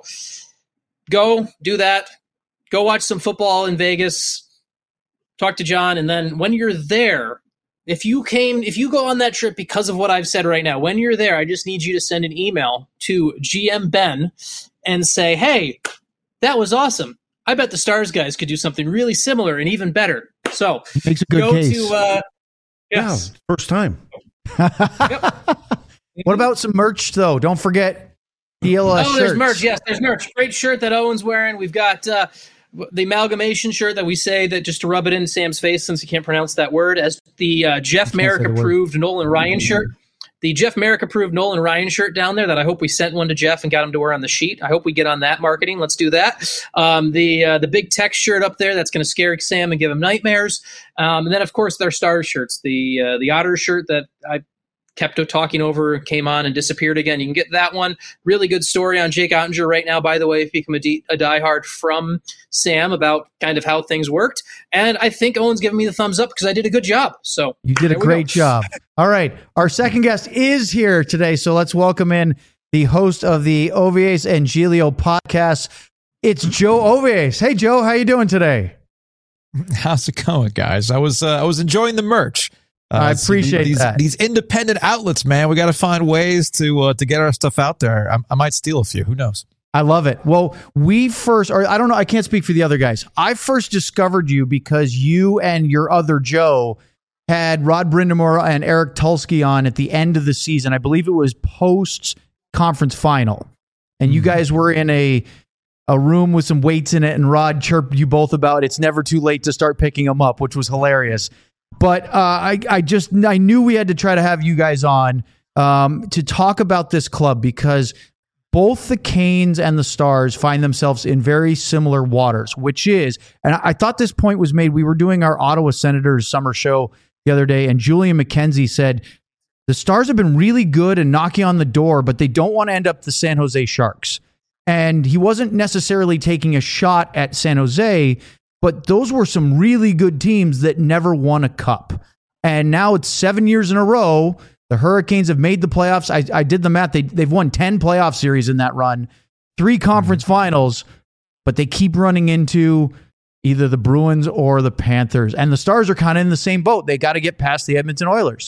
go do that. Go watch some football in Vegas. Talk to John, and then when you're there, if you go on that trip because of what I've said right now, when you're there, I just need you to send an email to GM Ben and say, hey, that was awesome. I bet the Stars guys could do something really similar and even better. So makes a good go case. To yes. Yeah, first time. Yep. What about some merch, though? Don't forget DLS shirts. There's merch. Yes, there's merch. Great shirt that Owen's wearing. We've got the amalgamation shirt that we say, that just to rub it in Sam's face since he can't pronounce that word, as the Jeff Merrick approved Nolan Ryan shirt. The Jeff Merrick approved Nolan Ryan shirt down there that I hope we sent one to Jeff and got him to wear on the sheet. I hope we get on that marketing. Let's do that. The Big Tech shirt up there, that's going to scare Sam and give him nightmares. And then, of course, their Stars shirts. The Otter shirt that I kept talking over, came on and disappeared again. You can get that one. Really good story on Jake Ottinger right now, by the way, if you become a diehard, from Sam about kind of how things worked. And I think Owen's giving me the thumbs up because I did a good job. So you did a great job. All right. Our second guest is here today. So let's welcome in the host of the Ovies and Giglio podcast. It's Joe Ovies. Hey, Joe, how you doing today? How's it going, guys? I was enjoying the merch. I appreciate these independent outlets, man. We got to find ways to get our stuff out there. I might steal a few. Who knows? I love it. Well, I don't know. I can't speak for the other guys. I first discovered you because you and your other Joe had Rod Brindamore and Eric Tulsky on at the end of the season. I believe it was post conference final, and you guys were in a room with some weights in it, and Rod chirped you both about it's never too late to start picking them up, which was hilarious. But I knew we had to try to have you guys on to talk about this club, because both the Canes and the Stars find themselves in very similar waters, which is, and I thought this point was made, we were doing our Ottawa Senators summer show the other day, and Julian McKenzie said, the Stars have been really good and knocking on the door, but they don't want to end up the San Jose Sharks. And he wasn't necessarily taking a shot at San Jose, but those were some really good teams that never won a cup. And now it's 7 years in a row. The Hurricanes have made the playoffs. I did the math. They've won 10 playoff series in that run, 3 conference finals, but they keep running into either the Bruins or the Panthers. And the Stars are kind of in the same boat. They got to get past the Edmonton Oilers.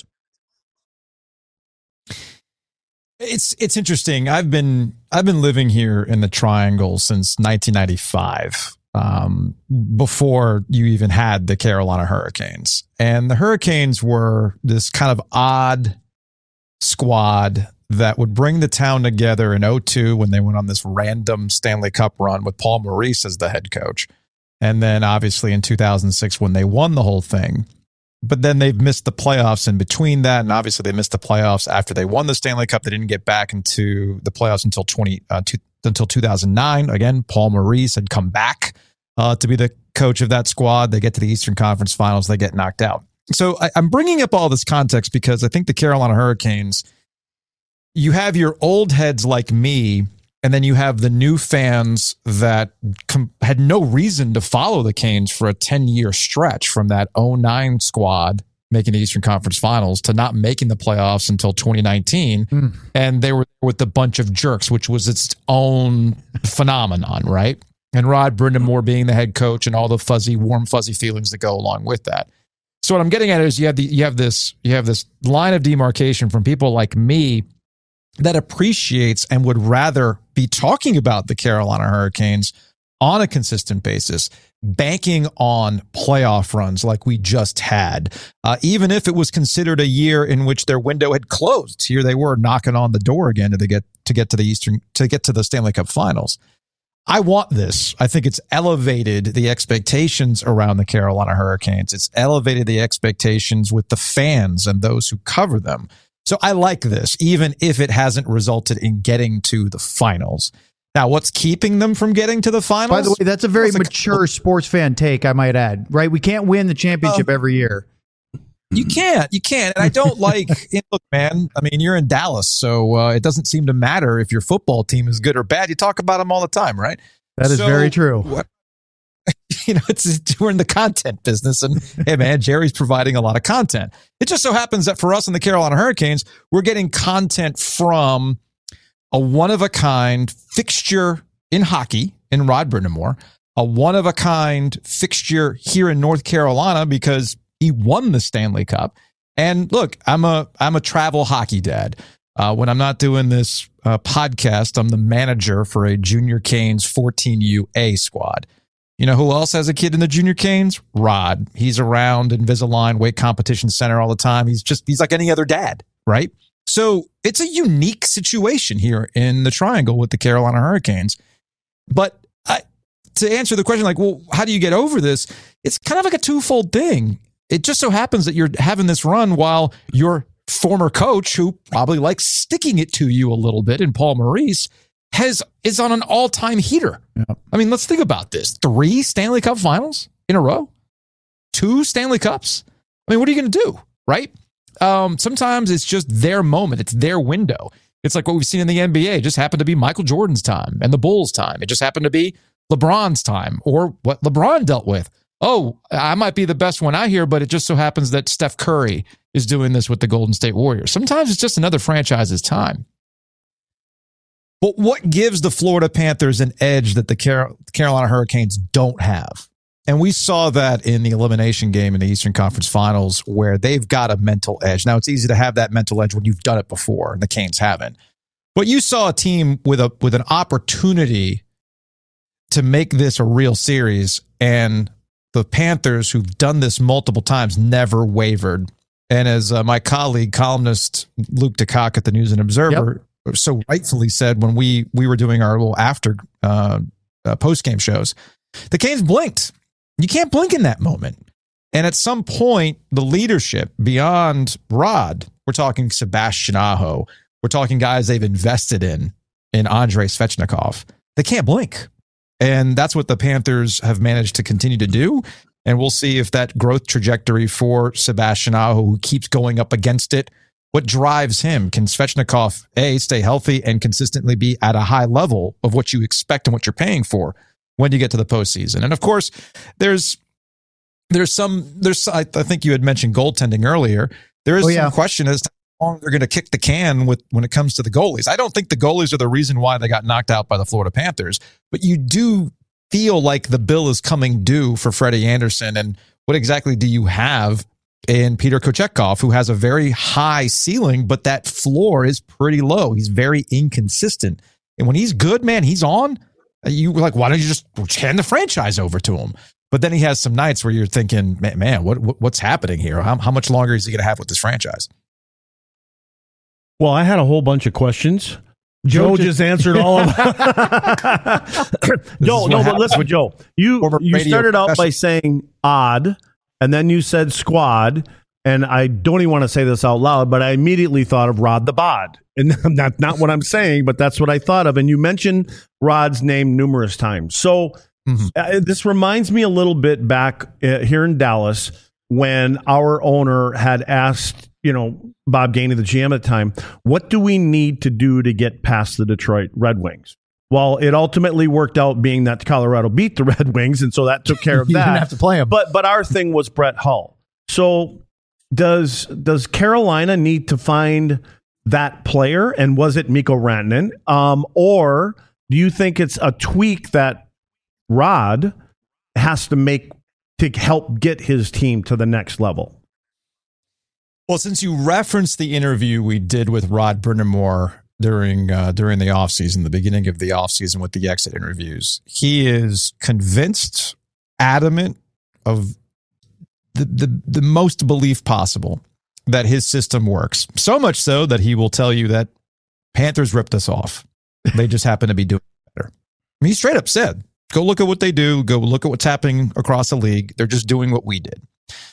It's interesting. I've been living here in the Triangle since 1995, before you even had the Carolina Hurricanes. And the Hurricanes were this kind of odd squad that would bring the town together in 2002 when they went on this random Stanley Cup run with Paul Maurice as the head coach. And then obviously in 2006 when they won the whole thing. But then they've missed the playoffs in between that. And obviously they missed the playoffs after they won the Stanley Cup. They didn't get back into the playoffs until 2009. Again, Paul Maurice had come back to be the coach of that squad. They get to the Eastern Conference Finals. They get knocked out. So I'm bringing up all this context because I think the Carolina Hurricanes, you have your old heads like me, and then you have the new fans that had no reason to follow the Canes for a 10-year stretch from that 2009 squad making the Eastern Conference Finals to not making the playoffs until 2019. And they were with a bunch of jerks, which was its own phenomenon, right? And Rod Brind'Amour being the head coach and all the warm, fuzzy feelings that go along with that. So what I'm getting at is you have this line of demarcation from people like me that appreciates and would rather be talking about the Carolina Hurricanes on a consistent basis, banking on playoff runs like we just had, even if it was considered a year in which their window had closed. Here they were knocking on the door again to get to the Stanley Cup Finals. I want this. I think it's elevated the expectations around the Carolina Hurricanes. It's elevated the expectations with the fans and those who cover them. So I like this, even if it hasn't resulted in getting to the finals. Now, what's keeping them from getting to the finals? By the way, that's a very mature sports fan take, I might add, right? We can't win the championship every year. You can't. And I don't like, look, man, I mean, you're in Dallas, so it doesn't seem to matter if your football team is good or bad. You talk about them all the time, right? That is very true. We're in the content business, and hey, man, Jerry's providing a lot of content. It just so happens that for us in the Carolina Hurricanes, we're getting content from a one-of-a-kind fixture in hockey in Rod Brind'Amour, a one-of-a-kind fixture here in North Carolina because he won the Stanley Cup. And look, I'm a travel hockey dad. When I'm not doing this podcast, I'm the manager for a Junior Canes 14U squad. You know who else has a kid in the Junior Canes? Rod. He's around Invisalign Weight Competition Center all the time. He's like any other dad, right? So it's a unique situation here in the Triangle with the Carolina Hurricanes. But to answer the question, like, well, how do you get over this? It's kind of like a twofold thing. It just so happens that you're having this run while your former coach, who probably likes sticking it to you a little bit, in Paul Maurice, is on an all-time heater. Yep. I mean, let's think about this. 3 Stanley Cup finals in a row? 2 Stanley Cups? I mean, what are you going to do, right? Sometimes it's just their moment. It's their window. It's like what we've seen in the NBA. It just happened to be Michael Jordan's time and the Bulls' time. It just happened to be LeBron's time, or what LeBron dealt with. Oh, I might be the best one out here, but it just so happens that Steph Curry is doing this with the Golden State Warriors. Sometimes it's just another franchise's time. But what gives the Florida Panthers an edge that the Carolina Hurricanes don't have? And we saw that in the elimination game in the Eastern Conference Finals, where they've got a mental edge. Now, it's easy to have that mental edge when you've done it before, and the Canes haven't. But you saw a team with an opportunity to make this a real series, and the Panthers, who've done this multiple times, never wavered. And as my colleague, columnist Luke DeCock at the News and Observer so rightfully said when we were doing our little after post-game shows, the Canes blinked. You can't blink in that moment. And at some point, the leadership beyond Rod, we're talking Sebastian Aho, we're talking guys they've invested in Andrei Svechnikov, they can't blink. And that's what the Panthers have managed to continue to do. And we'll see if that growth trajectory for Sebastian Aho, who keeps going up against it, what drives him? Can Svechnikov, stay healthy and consistently be at a high level of what you expect and what you're paying for when you get to the postseason? And of course, there's I think you had mentioned goaltending earlier. There is some question as to how long they're going to kick the can when it comes to the goalies. I don't think the goalies are the reason why they got knocked out by the Florida Panthers, but you do feel like the bill is coming due for Freddie Andersen? And what exactly do you have in Peter Kochetkov, who has a very high ceiling, but that floor is pretty low? He's very inconsistent. And when he's good, man, he's on. You were like, why don't you just hand the franchise over to him? But then he has some nights where you're thinking, man, what's happening here? How much longer is he going to have with this franchise? Well, I had a whole bunch of questions. Joe just answered all of them. No, but listen, Joe, you started out by saying odd, and then you said squad, and I don't even want to say this out loud, but I immediately thought of Rod the Bod. And that's not what I'm saying, but that's what I thought of. And you mentioned Rod's name numerous times. So this reminds me a little bit back here in Dallas when our owner had asked, Bob Gainey, the GM at the time, what do we need to do to get past the Detroit Red Wings? Well, it ultimately worked out being that Colorado beat the Red Wings, and so that took care of that. You didn't have to play them. But our thing was Brett Hull. So does Carolina need to find that player, and was it Mikko Rantanen? Or do you think it's a tweak that Rod has to make to help get his team to the next level? Well, since you referenced the interview we did with Rod Brind'Amour during the offseason, the beginning of the offseason with the exit interviews, he is convinced, adamant of the most belief possible that his system works. So much so that he will tell you that Panthers ripped us off. They just happen to be doing better. I mean, he straight up said, go look at what they do. Go look at what's happening across the league. They're just doing what we did.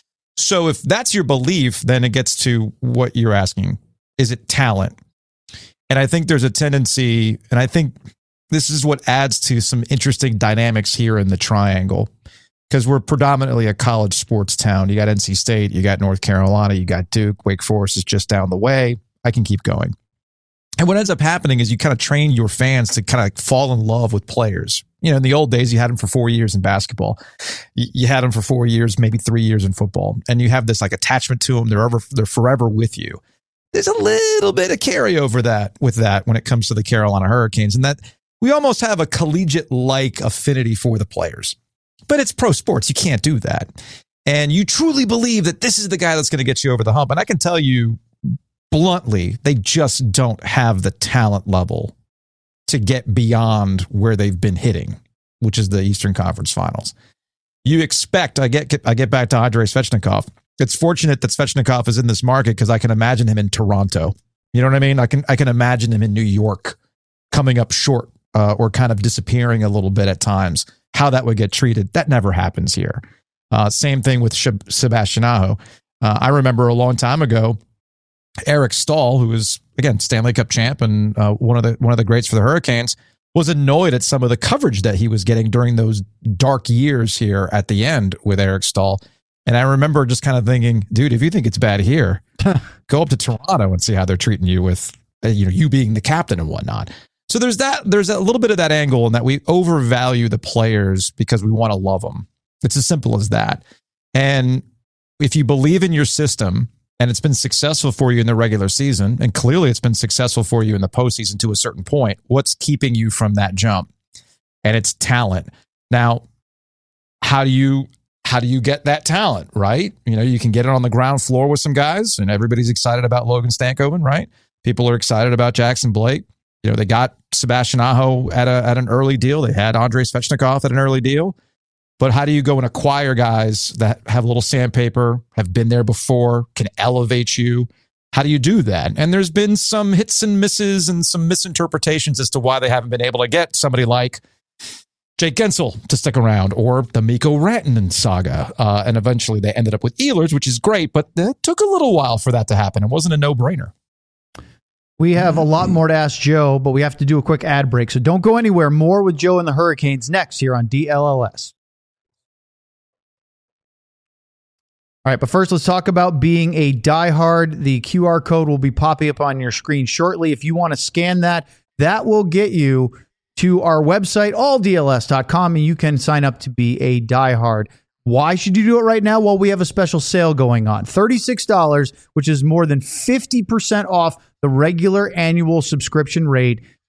So if that's your belief, then it gets to what you're asking. Is it talent? And I think there's a tendency, and I think this is what adds to some interesting dynamics here in the triangle, because we're predominantly a college sports town. You got NC State, you got North Carolina, you got Duke, Wake Forest is just down the way. I can keep going. And what ends up happening is you kind of train your fans to kind of fall in love with players. In the old days, you had them for 4 years in basketball. You had them for 4 years, maybe 3 years in football. And you have this like attachment to them. They're forever with you. There's a little bit of carryover with that when it comes to the Carolina Hurricanes, and that we almost have a collegiate-like affinity for the players. But it's pro sports. You can't do that. And you truly believe that this is the guy that's going to get you over the hump. And I can tell you bluntly, they just don't have the talent level to get beyond where they've been hitting, which is the Eastern Conference Finals. You expect, I get back to Andrei Svechnikov. It's fortunate that Svechnikov is in this market because I can imagine him in Toronto. You know what I mean? I can imagine him in New York coming up short or kind of disappearing a little bit at times. How that would get treated, that never happens here. Same thing with Sebastian Aho. I remember a long time ago, Eric Stahl, who was, again, Stanley Cup champ and one of the greats for the Hurricanes, was annoyed at some of the coverage that he was getting during those dark years here at the end with Eric Stahl. And I remember just kind of thinking, dude, if you think it's bad here, go up to Toronto and see how they're treating you with, you being the captain and whatnot. So there's a little bit of that angle in that we overvalue the players because we want to love them. It's as simple as that. And if you believe in your system and it's been successful for you in the regular season, and clearly it's been successful for you in the postseason to a certain point, what's keeping you from that jump? And it's talent. Now, how do you get that talent, right? You can get it on the ground floor with some guys, and everybody's excited about Logan Stankoven, right? People are excited about Jackson Blake. They got Sebastian Aho at an early deal. They had Andrei Svechnikov at an early deal. But how do you go and acquire guys that have a little sandpaper, have been there before, can elevate you? How do you do that? And there's been some hits and misses and some misinterpretations as to why they haven't been able to get somebody like Jake Gensel to stick around, or the Mikko Rantanen saga. And eventually they ended up with Ehlers, which is great, but it took a little while for that to happen. It wasn't a no-brainer. We have a lot more to ask Joe, but we have to do a quick ad break. So don't go anywhere. More with Joe and the Hurricanes next here on DLLS. All right, but first let's talk about being a diehard. The QR code will be popping up on your screen shortly. If you want to scan that, that will get you to our website, alldls.com, and you can sign up to be a diehard. Why should you do it right now? Well, we have a special sale going on. $36, which is more than 50% off the regular annual subscription rate.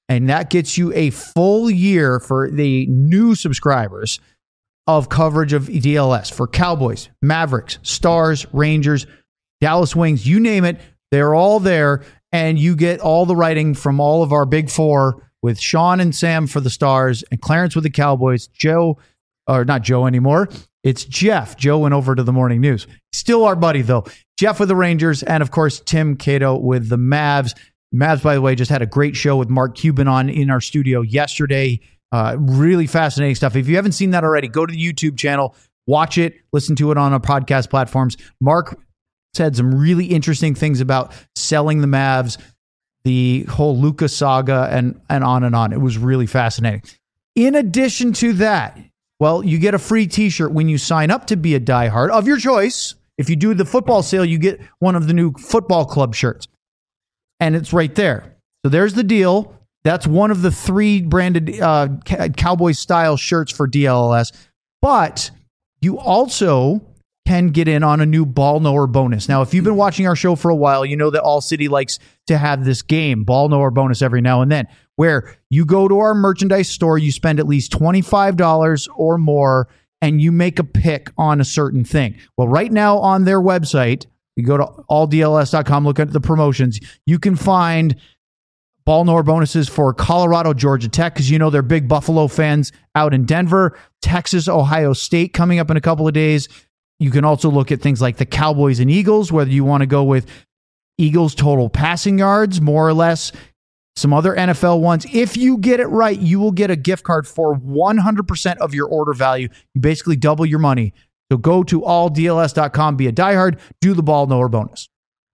And that gets you a full year for the new subscribers of coverage of DLS for Cowboys, Mavericks, Stars, Rangers, Dallas Wings, you name it. They're all there. And you get all the writing from all of our big four with Sean and Sam for the Stars and Clarence with the Cowboys, Joe, or not Joe anymore. It's Jeff. Joe went over to the morning news. Still our buddy, though. Jeff with the Rangers, and of course, Tim Cato with the Mavs. Mavs, by the way, just had a great show with Mark Cuban on in our studio yesterday. Really fascinating stuff. If you haven't seen that already, go to the YouTube channel, watch it, listen to it on our podcast platforms. Mark said some really interesting things about selling the Mavs, the whole Luka saga, and on and on. It was really fascinating. In addition to that, well, you get a free t-shirt when you sign up to be a diehard of your choice. If you do the football sale, you get one of the new football club shirts. And it's right there. So there's the deal. That's one of the 3 branded Cowboys style shirts for DLS. But you also can get in on a new Ball Knower bonus. Now, if you've been watching our show for a while, you know that All City likes to have this game, Ball Knower bonus, every now and then, where you go to our merchandise store, you spend at least $25 or more, and you make a pick on a certain thing. Well, right now on their website, you go to alldls.com, look at the promotions, you can find Ball Knower bonuses for Colorado, Georgia Tech, because you know they're big Buffalo fans out in Denver, Texas, Ohio State coming up in a couple of days. You can also look at things like the Cowboys and Eagles, whether you want to go with Eagles total passing yards, more or less, some other NFL ones. If you get it right, you will get a gift card for 100% of your order value. You basically double your money. So go to alldls.com, be a diehard, do the Ball Knower bonus.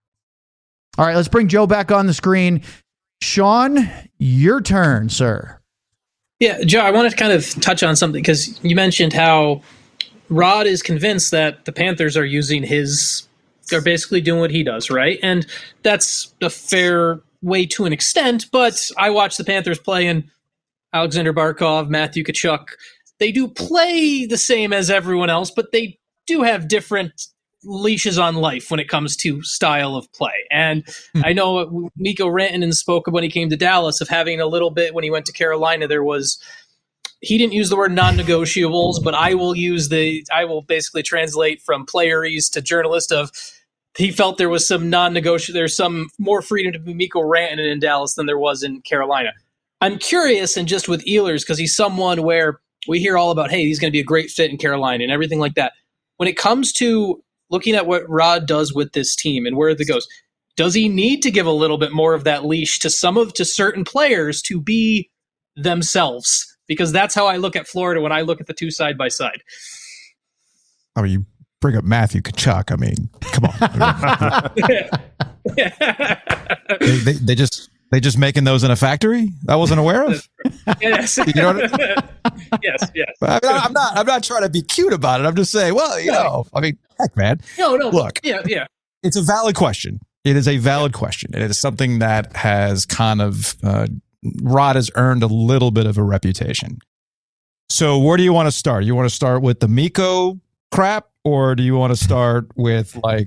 All right, let's bring Joe back on the screen. Sean, your turn, sir. Yeah, Joe, I wanted to kind of touch on something because you mentioned how Rod is convinced that the Panthers are using they're basically doing what he does, right? And that's a fair way to an extent, but I watched the Panthers play, and Alexander Barkov, Matthew Tkachuk, they do play the same as everyone else, but they do have different leashes on life when it comes to style of play. And I know Mikko Rantanen spoke when he came to Dallas of having a little bit when he went to Carolina. He didn't use the word non-negotiables, but I will basically translate from playeries to journalist of he felt there was some there's some more freedom to be Mikko Rantanen in Dallas than there was in Carolina. I'm curious, and just with Ehlers, because he's someone where we hear all about, hey, he's going to be a great fit in Carolina and everything like that. When it comes to looking at what Rod does with this team and where it goes, does he need to give a little bit more of that leash to certain players to be themselves? Because that's how I look at Florida when I look at the two side by side. I mean, you bring up Matthew Tkachuk. I mean, come on. They just making those in a factory? I wasn't aware of. Yes. You know what Yes. I mean, I'm not trying to be cute about it. I'm just saying, well, you know, I mean, heck, man. No. Look. Yeah. It's a valid question. It is a valid question. It is something that has kind of Rod has earned a little bit of a reputation. So where do you want to start? You want to start with the Mikko crap, or do you want to start with like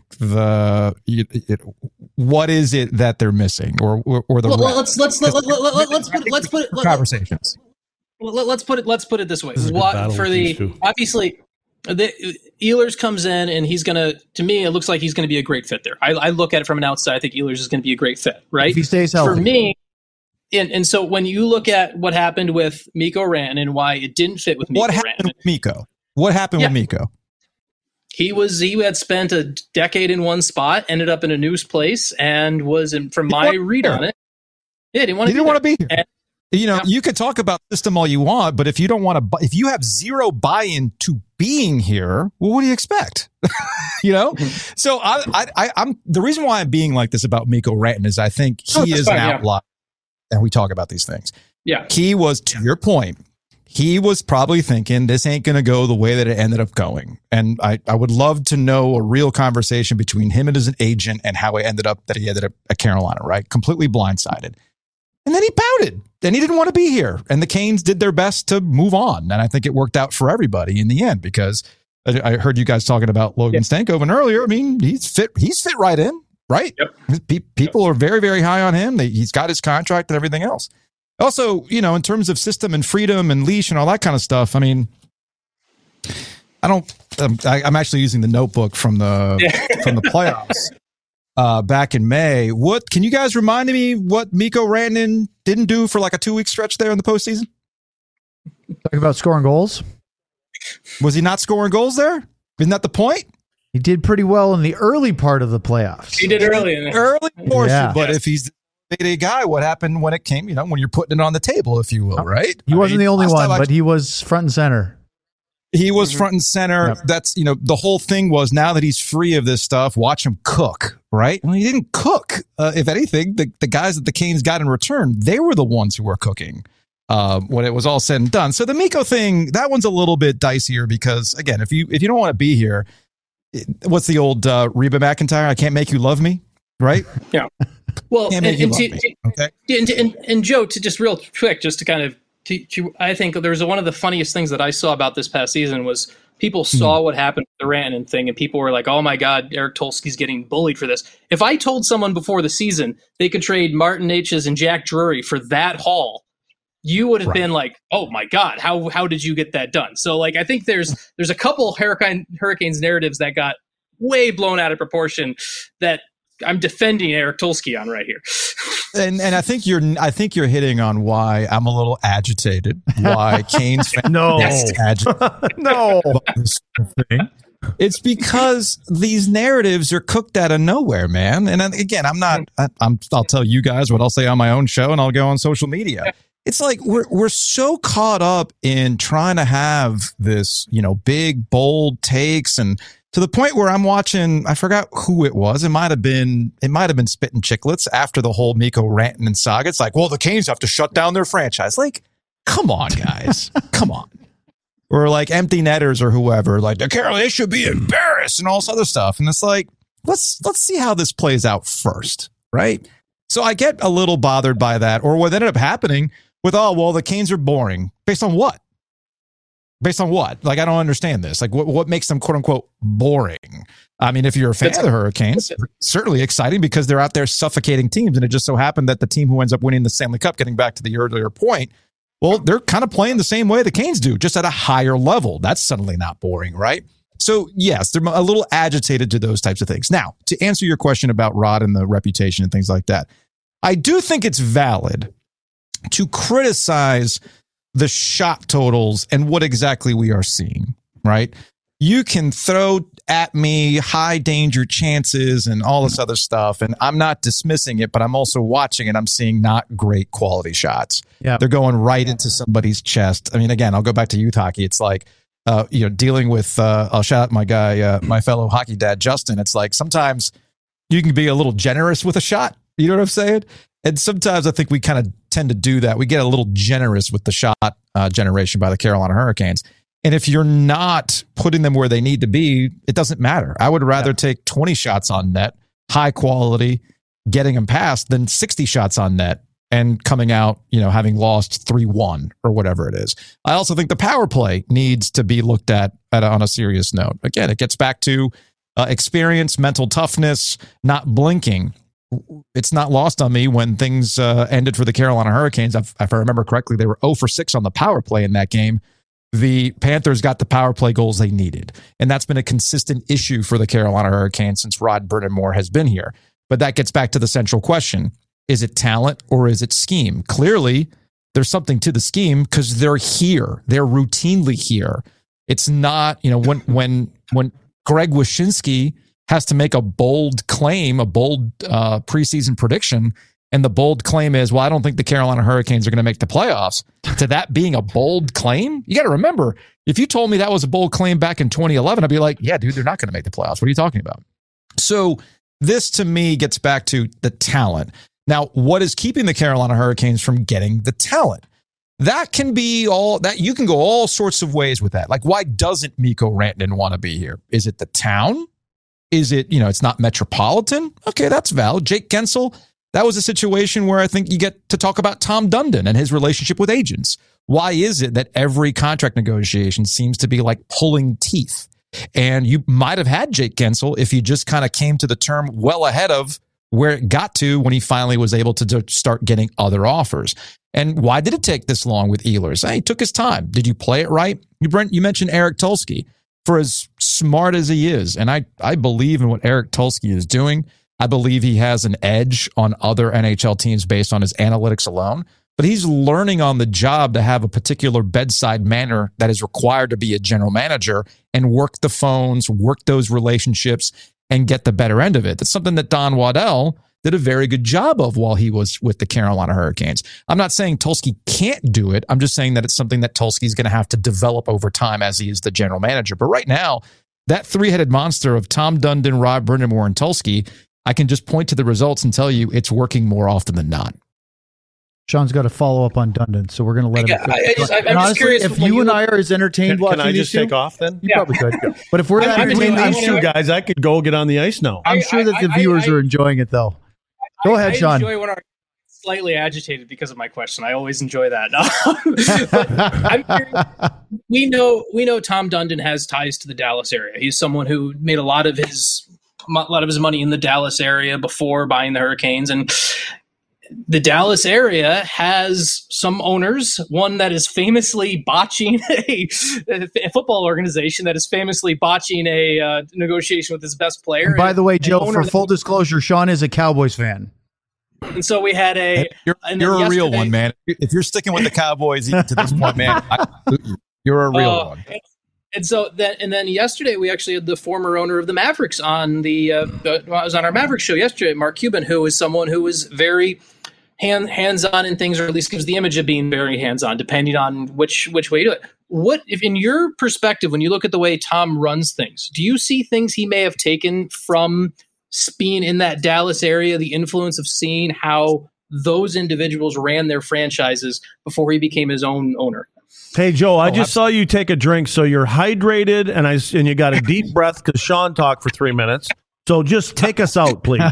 what is it that they're missing, or the let's put it conversations. Let's put it this way. Obviously the Ehlers comes in and he's gonna. To me, it looks like he's going to be a great fit there. I look at it from an outside. I think Ehlers is going to be a great fit. Right? If he stays healthy. For me. And so when you look at what happened with Mikko Rantanen and why it didn't fit with Mikko Rantanen. What happened with Mikko? He had spent a decade in one spot, ended up in a new place, and from my read on it, he didn't want to be here. And, you could talk about system all you want, but if you don't want to, if you have zero buy-in to being here, well, what do you expect? So I'm the reason why I'm being like this about Mikko Rantanen is I think he is an outlier. And we talk about these things. Yeah. He was, to your point, he was probably thinking this ain't going to go the way that it ended up going. And I would love to know a real conversation between him and his agent and how he ended up at Carolina, right? Completely blindsided. And then he pouted and he didn't want to be here. And the Canes did their best to move on. And I think it worked out for everybody in the end because I heard you guys talking about Logan Stankoven earlier. I mean, he's fit right in. Right? Yep. People are very, very high on him. He's got his contract and everything else. Also, in terms of system and freedom and leash and all that kind of stuff, I mean, I'm actually using the notebook from the playoffs back in May. What can you guys remind me what Mikko Rantanen didn't do for like a 2-week stretch there in the postseason? Talking about scoring goals. Was he not scoring goals there? Isn't that the point? He did pretty well in the early part of the playoffs. He did early in early portion, yeah. But if he's a guy, what happened when it came? When you're putting it on the table, if you will, right? He wasn't the only one, but he was front and center. He was front and center. Yep. That's, the whole thing was now that he's free of this stuff, watch him cook, right? Well, he didn't cook. If anything, the guys that the Canes got in return, they were the ones who were cooking when it was all said and done. So the Mikko thing, that one's a little bit dicier because, again, if you don't want to be here, what's the old Reba McEntire? I can't make you love me, right? Yeah. Well, and Joe, to just real quick, just to kind of, I think there was one of the funniest things that I saw about this past season was people saw what happened with the Rantanen thing, and people were like, "Oh my God, Eric Tulsky's getting bullied for this." If I told someone before the season they could trade Martin Necas and Jack Drury for that haul, you would have been like, "Oh my God, how did you get that done?" So, like, I think there's a couple Hurricanes narratives that got way blown out of proportion that I'm defending Eric Tulsky on right here. And I think you're hitting on why I'm a little agitated. Why Canes fans agitated. No. It's because these narratives are cooked out of nowhere, man. And again, I'll tell you guys what I'll say on my own show, and I'll go on social media. It's like we're so caught up in trying to have this, big, bold takes, and to the point where I'm watching, I forgot who it was. It might have been Spittin' Chicklets after the whole Mikko Rantanen saga. It's like, well, the Canes have to shut down their franchise. Like, come on, guys. Come on. Or like Empty Netters or whoever, like, the Carolina should be embarrassed and all this other stuff. And it's like, let's see how this plays out first, right? So I get a little bothered by that. Or what ended up happening with, the Canes are boring. Based on what? Based on what? Like, I don't understand this. Like, what makes them, quote unquote, boring? I mean, if you're a fan of the Hurricanes, certainly exciting because they're out there suffocating teams. And it just so happened that the team who ends up winning the Stanley Cup, getting back to the earlier point, well, they're kind of playing the same way the Canes do, just at a higher level. That's suddenly not boring, right? So, yes, they're a little agitated to those types of things. Now, to answer your question about Rod and the reputation and things like that, I do think it's valid to criticize the shot totals and what exactly we are seeing, right? You can throw at me high danger chances and all this other stuff, and I'm not dismissing it, but I'm also watching and I'm seeing not great quality shots. Yeah, they're going right into somebody's chest. I mean, again, I'll go back to youth hockey. It's like, dealing with, I'll shout out my guy, my fellow hockey dad, Justin. It's like sometimes you can be a little generous with a shot. You know what I'm saying? And sometimes I think we kind of tend to do that. We get a little generous with the shot generation by the Carolina Hurricanes. And if you're not putting them where they need to be, it doesn't matter. I would rather take 20 shots on net, high quality, getting them past, than 60 shots on net and coming out, having lost 3-1 or whatever it is. I also think the power play needs to be looked at on a serious note. Again, it gets back to experience, mental toughness, not blinking. It's not lost on me when things ended for the Carolina Hurricanes. If I remember correctly, they were 0 for 6 on the power play in that game. The Panthers got the power play goals they needed. And that's been a consistent issue for the Carolina Hurricanes since Rod Brind'Amour has been here. But that gets back to the central question. Is it talent or is it scheme? Clearly, there's something to the scheme because they're here. They're routinely here. It's not, when Greg Wyshynski has to make a bold claim, a bold preseason prediction, and the bold claim is, well, I don't think the Carolina Hurricanes are going to make the playoffs, to that being a bold claim, you got to remember, if you told me that was a bold claim back in 2011, I'd be like, yeah, dude, they're not going to make the playoffs. What are you talking about? So this, to me, gets back to the talent. Now, what is keeping the Carolina Hurricanes from getting the talent? That can be all that. You can go all sorts of ways with that. Like, why doesn't Mikko Rantanen want to be here? Is it the town? Is it, it's not metropolitan? Okay, that's valid. Jake Gensel, that was a situation where I think you get to talk about Tom Dundon and his relationship with agents. Why is it that every contract negotiation seems to be like pulling teeth? And you might have had Jake Gensel if you just kind of came to the term well ahead of where it got to when he finally was able to start getting other offers. And why did it take this long with Ehlers? He took his time. Did you play it right? You mentioned Eric Tulsky. For as smart as he is, and I believe in what Eric Tulsky is doing, I believe he has an edge on other NHL teams based on his analytics alone. But he's learning on the job to have a particular bedside manner that is required to be a general manager and work the phones, work those relationships, and get the better end of it. That's something that Don Waddell did a very good job of while he was with the Carolina Hurricanes. I'm not saying Tulsky can't do it. I'm just saying that it's something that Tulsky's going to have to develop over time as he is the general manager. But right now, that three-headed monster of Tom Dundon, Rod Brind'Amour, and Tulsky, I can just point to the results and tell you it's working more often than not. Sean's got to follow up on Dundon, so we're going to let him. I'm just curious. If you and I are as entertained watching can I just take off then? You probably could. But if we're between these two guys, I could go get on the ice now. I'm sure that the viewers are enjoying it, though. Go ahead, Sean. I enjoy when I'm slightly agitated because of my question. I always enjoy that. I'm curious, we know Tom Dundon has ties to the Dallas area. He's someone who made a lot of his money in the Dallas area before buying the Hurricanes, and the Dallas area has some owners, one that is famously botching a football organization that is famously botching a negotiation with his best player. And by the way, Joe, for full disclosure, Sean is a Cowboys fan. And so we had You're a real one, man. If you're sticking with the Cowboys even to this point, man, you're a real one. And so then yesterday we actually had the former owner of the Mavericks on I was on our Mavericks show yesterday, Mark Cuban, who is someone who was very hands-on in things, or at least gives the image of being very hands-on, depending on which way you do it. What, if in your perspective, when you look at the way Tom runs things, do you see things he may have taken from being in that Dallas area, the influence of seeing how those individuals ran their franchises before he became his own owner? Hey, Joe, I just saw you take a drink, so you're hydrated, and you got a deep breath because Sean talked for 3 minutes. So just take us out, please.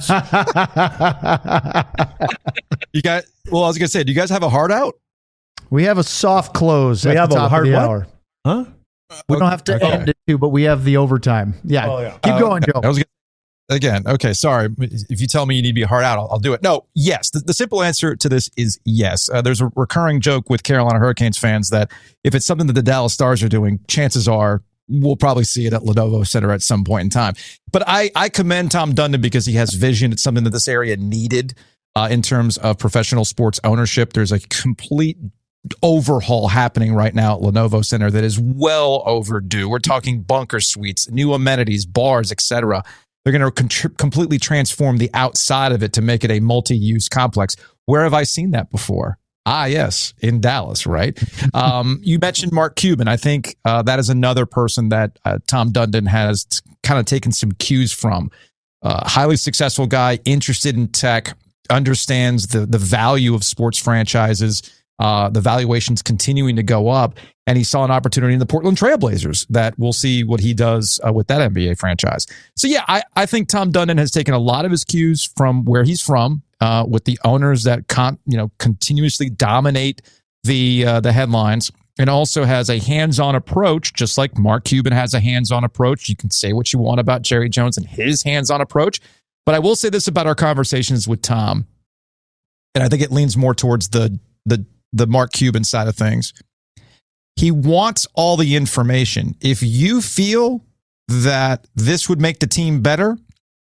You guys, well, I was going to say, do you guys have a hard out? We have a soft close at the top of the hour. Huh? We don't have to end it too, but we have the overtime. Yeah. Oh, yeah. Keep going, Joe. Again, okay, sorry. If you tell me you need to be hard out, I'll do it. No, yes. The simple answer to this is yes. There's a recurring joke with Carolina Hurricanes fans that if it's something that the Dallas Stars are doing, chances are we'll probably see it at Lenovo Center at some point in time. But I commend Tom Dundon because he has vision. It's something that this area needed in terms of professional sports ownership. There's a complete overhaul happening right now at Lenovo Center that is well overdue. We're talking bunker suites, new amenities, bars, etc. They're going to completely transform the outside of it to make it a multi-use complex. Where have I seen that before? Yes, in Dallas, right? You mentioned Mark Cuban. I think that is another person that Tom Dundon has kind of taken some cues from. Highly successful guy, interested in tech, understands the value of sports franchises, the valuations continuing to go up, and he saw an opportunity in the Portland Trailblazers that we'll see what he does with that NBA franchise. So yeah, I think Tom Dundon has taken a lot of his cues from where he's from, with the owners that continuously dominate the headlines, and also has a hands-on approach, just like Mark Cuban has a hands-on approach. You can say what you want about Jerry Jones and his hands-on approach, but I will say this about our conversations with Tom, and I think it leans more towards the Mark Cuban side of things. He wants all the information. If you feel that this would make the team better,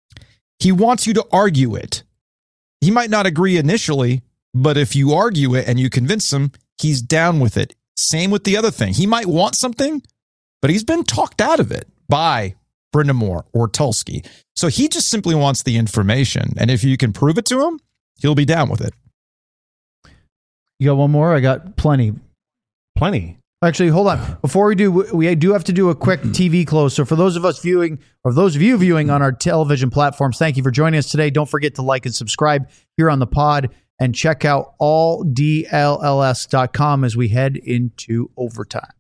he wants you to argue it. He might not agree initially, but if you argue it and you convince him, he's down with it. Same with the other thing. He might want something, but he's been talked out of it by Brind'Amour or Tulsky. So he just simply wants the information. And if you can prove it to him, he'll be down with it. You got one more? I got plenty. Actually, hold on. Before we do have to do a quick TV close. So for those of us viewing, or those of you viewing on our television platforms, thank you for joining us today. Don't forget to like and subscribe here on the pod, and check out alldlls.com as we head into overtime.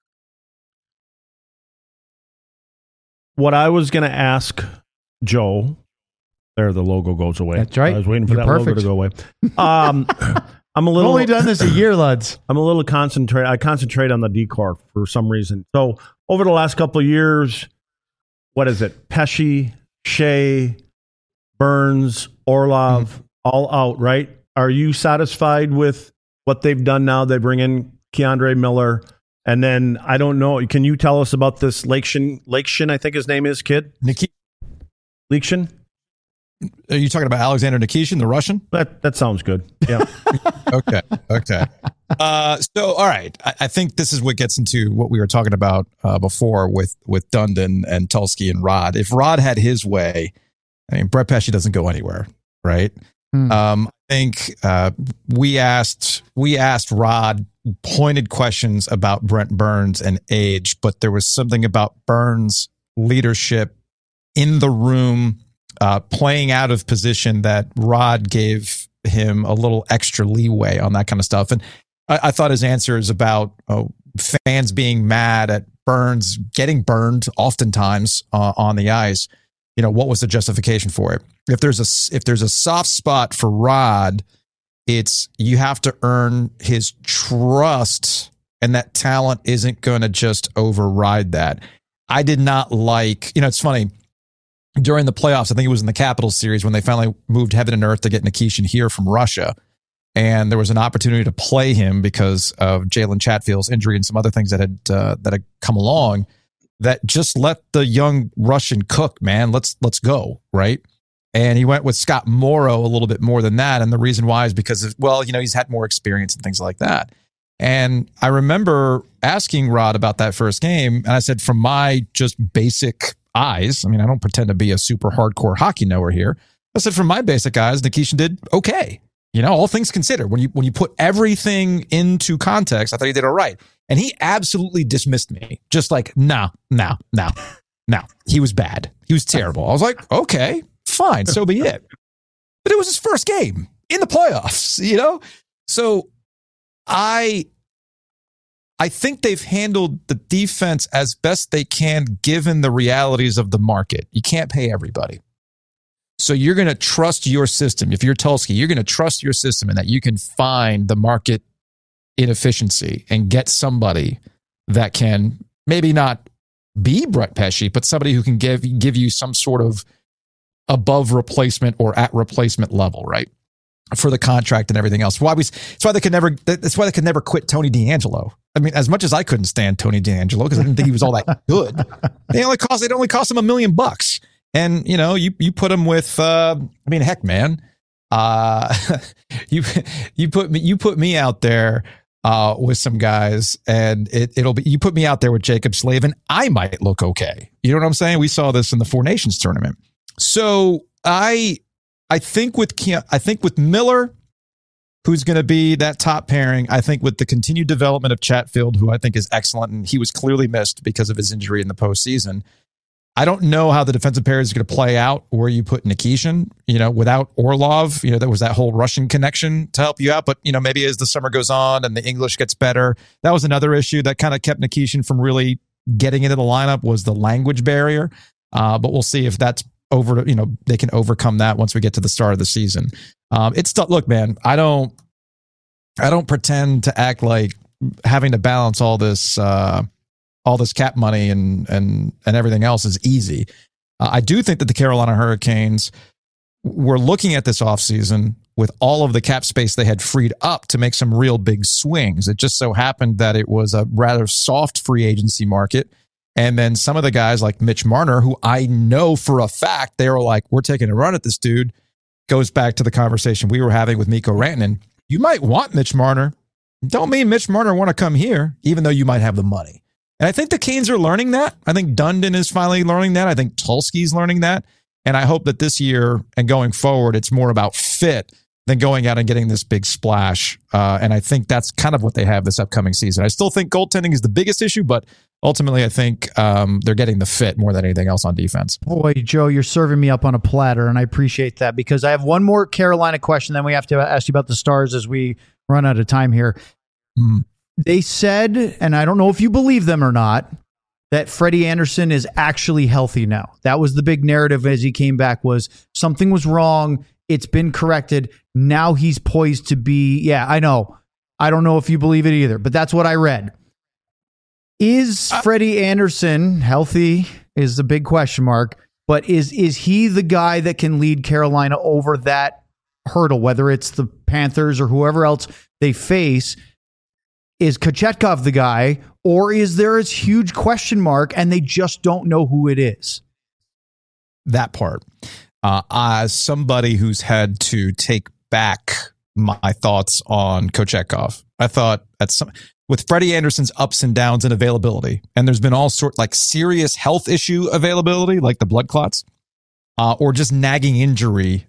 What I was going to ask Joe, there the logo goes away. That's right. I was waiting for logo to go away. I'm a little. We've only done this a year, lads. I'm a little concentrate. I concentrate on the decor for some reason. So over the last couple of years, what is it? Pesce, Shea, Burns, Orlov, all out, right? Are you satisfied with what they've done now. They bring in Keandre Miller. And then, I don't know, can you tell us about this Lakeshin, I think his name is, kid? Lakeshin? Are you talking about Alexander Nikishin, the Russian? That sounds good. Yeah. Okay. So, all right. I think this is what gets into what we were talking about before with Dundon and Tulsky and Rod. If Rod had his way, I mean, Brett Pesce doesn't go anywhere, right? I think we asked Rod pointed questions about Brent Burns and age, but there was something about Burns' leadership in the room, playing out of position, that Rod gave him a little extra leeway on that kind of stuff. And I thought his answers about fans being mad at Burns getting burned oftentimes on the ice, you know, what was the justification for it? If there's a soft spot for Rod, it's you have to earn his trust, and that talent isn't going to just override that. I did not like, you know, it's funny. During the playoffs, I think it was in the Capitals series when they finally moved heaven and earth to get Nikishin here from Russia. And there was an opportunity to play him because of Jalen Chatfield's injury and some other things that had come along, that just let the young Russian cook, man. Let's go, right? And he went with Scott Morrow a little bit more than that. And the reason why is because of, well, you know, he's had more experience and things like that. And I remember asking Rod about that first game, and I said, from my just basic eyes, I mean, I don't pretend to be a super hardcore hockey knower here. I said, from my basic eyes, Nikishin did okay. You know, all things considered, when you put everything into context, I thought he did all right. And he absolutely dismissed me. Just like, no. He was bad. He was terrible. I was like, okay, fine, so be it. But it was his first game in the playoffs, you know? So I think they've handled the defense as best they can given the realities of the market. You can't pay everybody. So you're going to trust your system. If you're Tulsky, you're going to trust your system and that you can find the market inefficiency and get somebody that can maybe not be Brett Pesce, but somebody who can give you some sort of above replacement or at replacement level, right? For the contract and everything else. That's why they could never quit Tony DeAngelo. I mean, as much as I couldn't stand Tony DeAngelo because I didn't think he was all that good, it only cost him $1 million. And, you know, you put him with, I mean, heck, man, you put me out there with some guys, and it'll be, you put me out there with Jacob Slavin, I might look okay. You know what I'm saying? We saw this in the Four Nations tournament. So I think with Miller, who's going to be that top pairing, I think with the continued development of Chatfield, who I think is excellent, and he was clearly missed because of his injury in the postseason. I don't know how the defensive pair is going to play out where you put Nikishin, you know, without Orlov. You know, there was that whole Russian connection to help you out. But, you know, maybe as the summer goes on and the English gets better, that was another issue that kind of kept Nikishin from really getting into the lineup, was the language barrier. But we'll see if that's over, you know, they can overcome that once we get to the start of the season. It's tough. Look, man, I don't pretend to act like having to balance all this cap money and everything else is easy. I do think that the Carolina Hurricanes were looking at this offseason with all of the cap space they had freed up to make some real big swings. It just so happened that it was a rather soft free agency market. And then some of the guys like Mitch Marner, who I know for a fact, they were like, we're taking a run at this dude. Goes back to the conversation we were having with Mikko Rantanen. You might want Mitch Marner. Don't mean Mitch Marner want to come here, even though you might have the money. And I think the Canes are learning that. I think Dundon is finally learning that. I think Tulsky's learning that. And I hope that this year and going forward, it's more about fit than going out and getting this big splash. And I think that's kind of what they have this upcoming season. I still think goaltending is the biggest issue, but ultimately I think they're getting the fit more than anything else on defense. Boy, Joe, you're serving me up on a platter, and I appreciate that, because I have one more Carolina question, then we have to ask you about the Stars as we run out of time here. They said, and I don't know if you believe them or not, that Freddie Anderson is actually healthy now. That was the big narrative as he came back, was something was wrong. It's been corrected. Now he's poised to be, yeah, I know. I don't know if you believe it either, but that's what I read. Is Freddie Anderson healthy is the big question mark, but is he the guy that can lead Carolina over that hurdle, whether it's the Panthers or whoever else they face. Is Kochetkov the guy, or is there a huge question mark and they just don't know who it is? That part. As somebody who's had to take back my thoughts on Kochetkov, I thought with Freddie Anderson's ups and downs and availability, and there's been all sorts like serious health issue availability, like the blood clots, or just nagging injury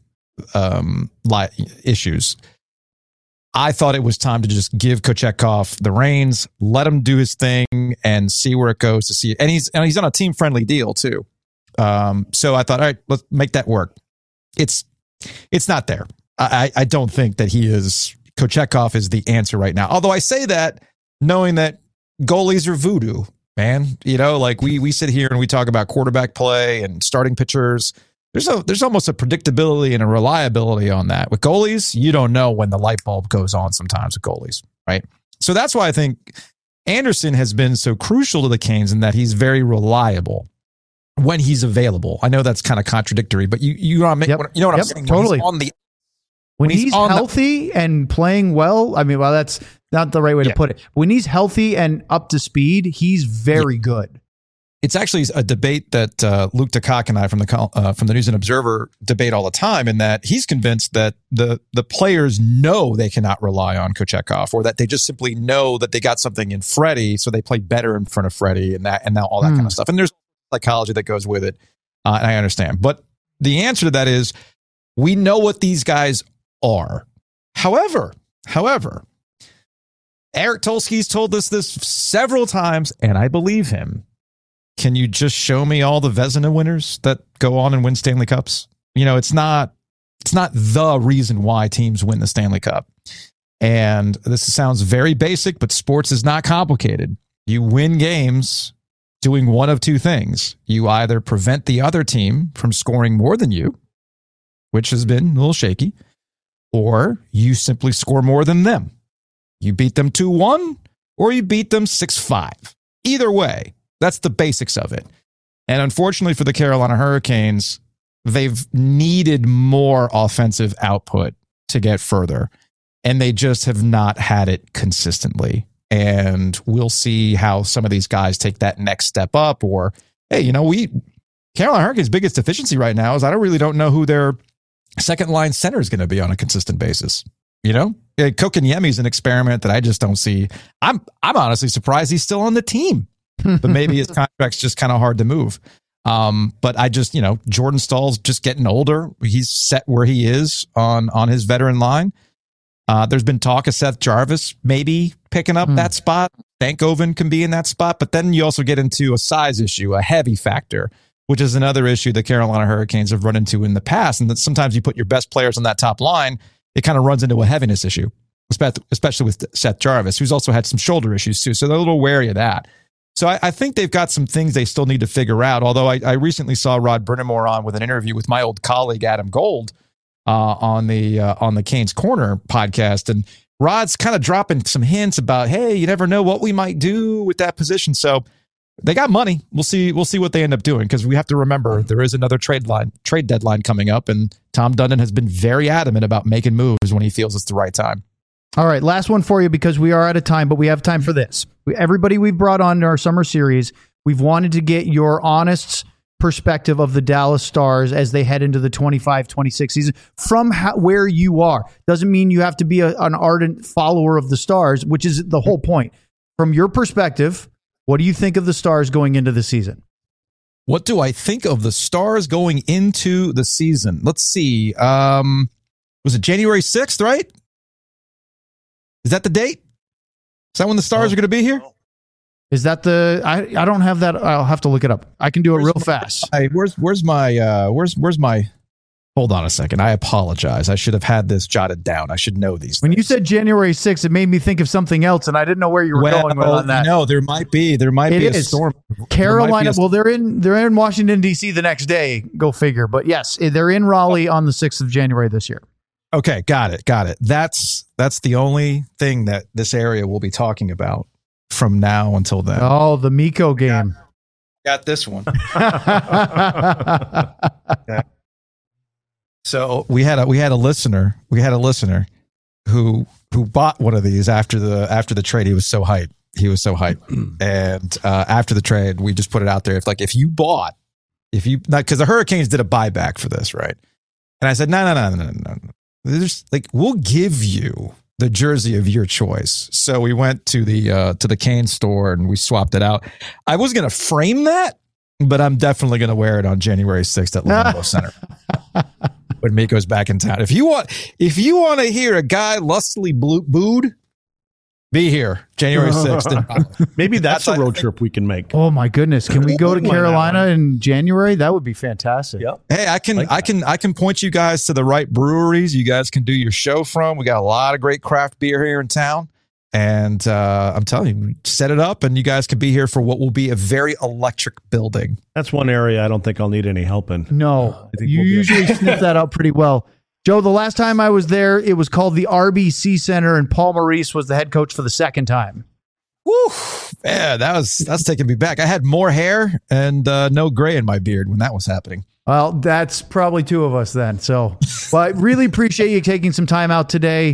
issues. I thought it was time to just give Kochetkov the reins, let him do his thing, and see where it goes. To see it, and he's on a team friendly deal too. So I thought, all right, let's make that work. It's not there. I don't think that Kochetkov is the answer right now. Although I say that knowing that goalies are voodoo, man. You know, like we sit here and we talk about quarterback play and starting pitchers. There's almost a predictability and a reliability on that. With goalies, you don't know when the light bulb goes on sometimes with goalies, right? So that's why I think Anderson has been so crucial to the Canes in that he's very reliable when he's available. I know that's kind of contradictory, but you know what I'm saying? Totally. When he's healthy and playing well, I mean, well, that's not the right way to put it. When he's healthy and up to speed, he's very good. It's actually a debate that Luke DeCock and I from the News and Observer debate all the time, in that he's convinced that the players know they cannot rely on Kochetkov, or that they just simply know that they got something in Freddie, so they play better in front of Freddie and now all that kind of stuff. And there's psychology that goes with it, and I understand. But the answer to that is we know what these guys are. However, Eric Tulsky's told us this several times, and I believe him. Can you just show me all the Vezina winners that go on and win Stanley Cups? You know, it's not the reason why teams win the Stanley Cup. And this sounds very basic, but sports is not complicated. You win games doing one of two things. You either prevent the other team from scoring more than you, which has been a little shaky, or you simply score more than them. You beat them 2-1, or you beat them 6-5. Either way, that's the basics of it. And unfortunately for the Carolina Hurricanes, they've needed more offensive output to get further, and they just have not had it consistently. And we'll see how some of these guys take that next step up. Or, hey, Carolina Hurricanes' biggest deficiency right now is I really don't know who their second line center is going to be on a consistent basis. You know, Kokoniemi's an experiment that I just don't see. I'm honestly surprised he's still on the team, but maybe his contract's just kind of hard to move. But I just, Jordan Stahl's just getting older. He's set where he is on his veteran line. There's been talk of Seth Jarvis maybe picking up that spot. Stankoven can be in that spot, but then you also get into a size issue, a heavy factor, which is another issue the Carolina Hurricanes have run into in the past. And that sometimes you put your best players on that top line, it kind of runs into a heaviness issue, especially with Seth Jarvis, who's also had some shoulder issues too. So they're a little wary of that. So I think they've got some things they still need to figure out. Although I recently saw Rod Brindamore on with an interview with my old colleague Adam Gold on the Canes Corner podcast, and Rod's kind of dropping some hints about, hey, you never know what we might do with that position. So they got money. We'll see what they end up doing, because we have to remember there is another trade deadline coming up, and Tom Dundon has been very adamant about making moves when he feels it's the right time. All right, last one for you, because we are out of time, but we have time for this. Everybody we've brought on to our summer series, we've wanted to get your honest perspective of the Dallas Stars as they head into the 25-26 season from where you are. Doesn't mean you have to be an ardent follower of the Stars, which is the whole point. From your perspective, what do you think of the Stars going into the season? What do I think of the Stars going into the season? Let's see. Was it January 6th, right? Is that the date? Is that when the Stars are going to be here? Is that I don't have that. I'll have to look it up. I can do it real fast. Where's my hold on a second. I apologize. I should have had this jotted down. I should know these When things. you said January 6th, it made me think of something else, and I didn't know where you were going on that. No, there might be a storm. Carolina. Well, they're in Washington, D.C. the next day. Go figure. But yes, they're in Raleigh on the 6th of January this year. Okay, got it. That's the only thing that this area will be talking about from now until then. Oh, the Mikko game. Got this one. So we had a listener who who bought one of these after the trade. He was so hyped. And after the trade, we just put it out there. If because the Hurricanes did a buyback for this, right? And I said, no. There's we'll give you the jersey of your choice. So we went to the Cane store and we swapped it out. I was going to frame that, but I'm definitely going to wear it on January 6th at Lambeau Center when Mikko's back in town. If you want to hear a guy lustily booed, be here January 6th. Maybe that's a road trip we can make. Oh my goodness. Can we go to Carolina in January? That would be fantastic. Yep. Hey, I can point you guys to the right breweries you guys can do your show from. We got a lot of great craft beer here in town. And I'm telling you, set it up and you guys can be here for what will be a very electric building. That's one area I don't think I'll need any help in. No, you usually sniff that out pretty well. Joe, the last time I was there, it was called the RBC Center, and Paul Maurice was the head coach for the second time. Woo! Yeah, that's taking me back. I had more hair and no gray in my beard when that was happening. Well, that's probably two of us then. So, but really appreciate you taking some time out today.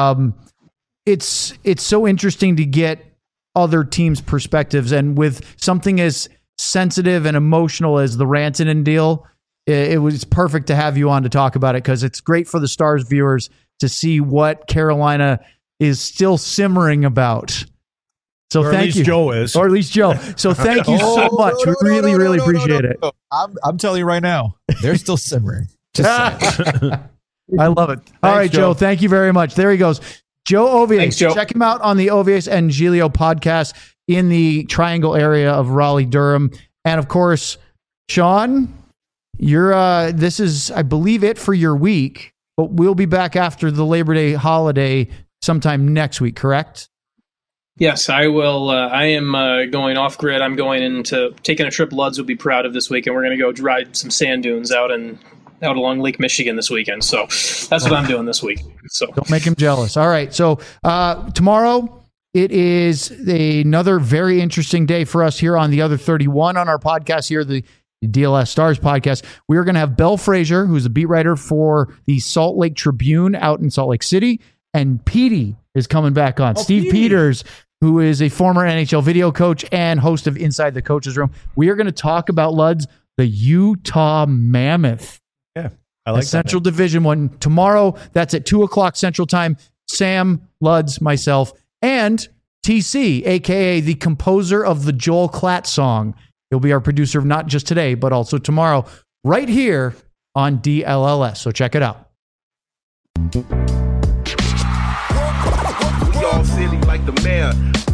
It's so interesting to get other teams' perspectives, and with something as sensitive and emotional as the Rantanen deal, it was perfect to have you on to talk about it, because it's great for the Stars viewers to see what Carolina is still simmering about. So thank you. Joe is. Or at least Joe. So thank you so much. We really appreciate it. I'm telling you right now, they're still simmering. Just saying. I love it. All right, Joe. Thank you very much. There he goes. Joe Ovies. Thanks, Joe. Check him out on the Ovies and Giglio podcast in the Triangle area of Raleigh-Durham. And of course, Sean, this is, I believe, it for your week, but we'll be back after the Labor Day holiday sometime next week, correct? Yes, I will. I am going off grid. I'm going into taking a trip Luds will be proud of this week, and we're going to go ride some sand dunes out along Lake Michigan this weekend. So that's what I'm doing this week. So don't make him jealous. All right. So tomorrow, it is another very interesting day for us here on the Other 31 on our podcast here, the DLS Stars podcast. We are going to have Belle Frazier, who's a beat writer for the Salt Lake Tribune out in Salt Lake City, and Petey is coming back on. Steve Peters, who is a former NHL video coach and host of Inside the Coach's Room. We are going to talk about, Luds, the Utah Mammoth. Yeah, I like Central Division 1 tomorrow. That's at 2:00 Central Time. Sam, Luds, myself, and TC, a.k.a. the composer of the Joel Klatt song. He'll be our producer not just today, but also tomorrow, right here on DLLS. So check it out. We all silly like the mayor.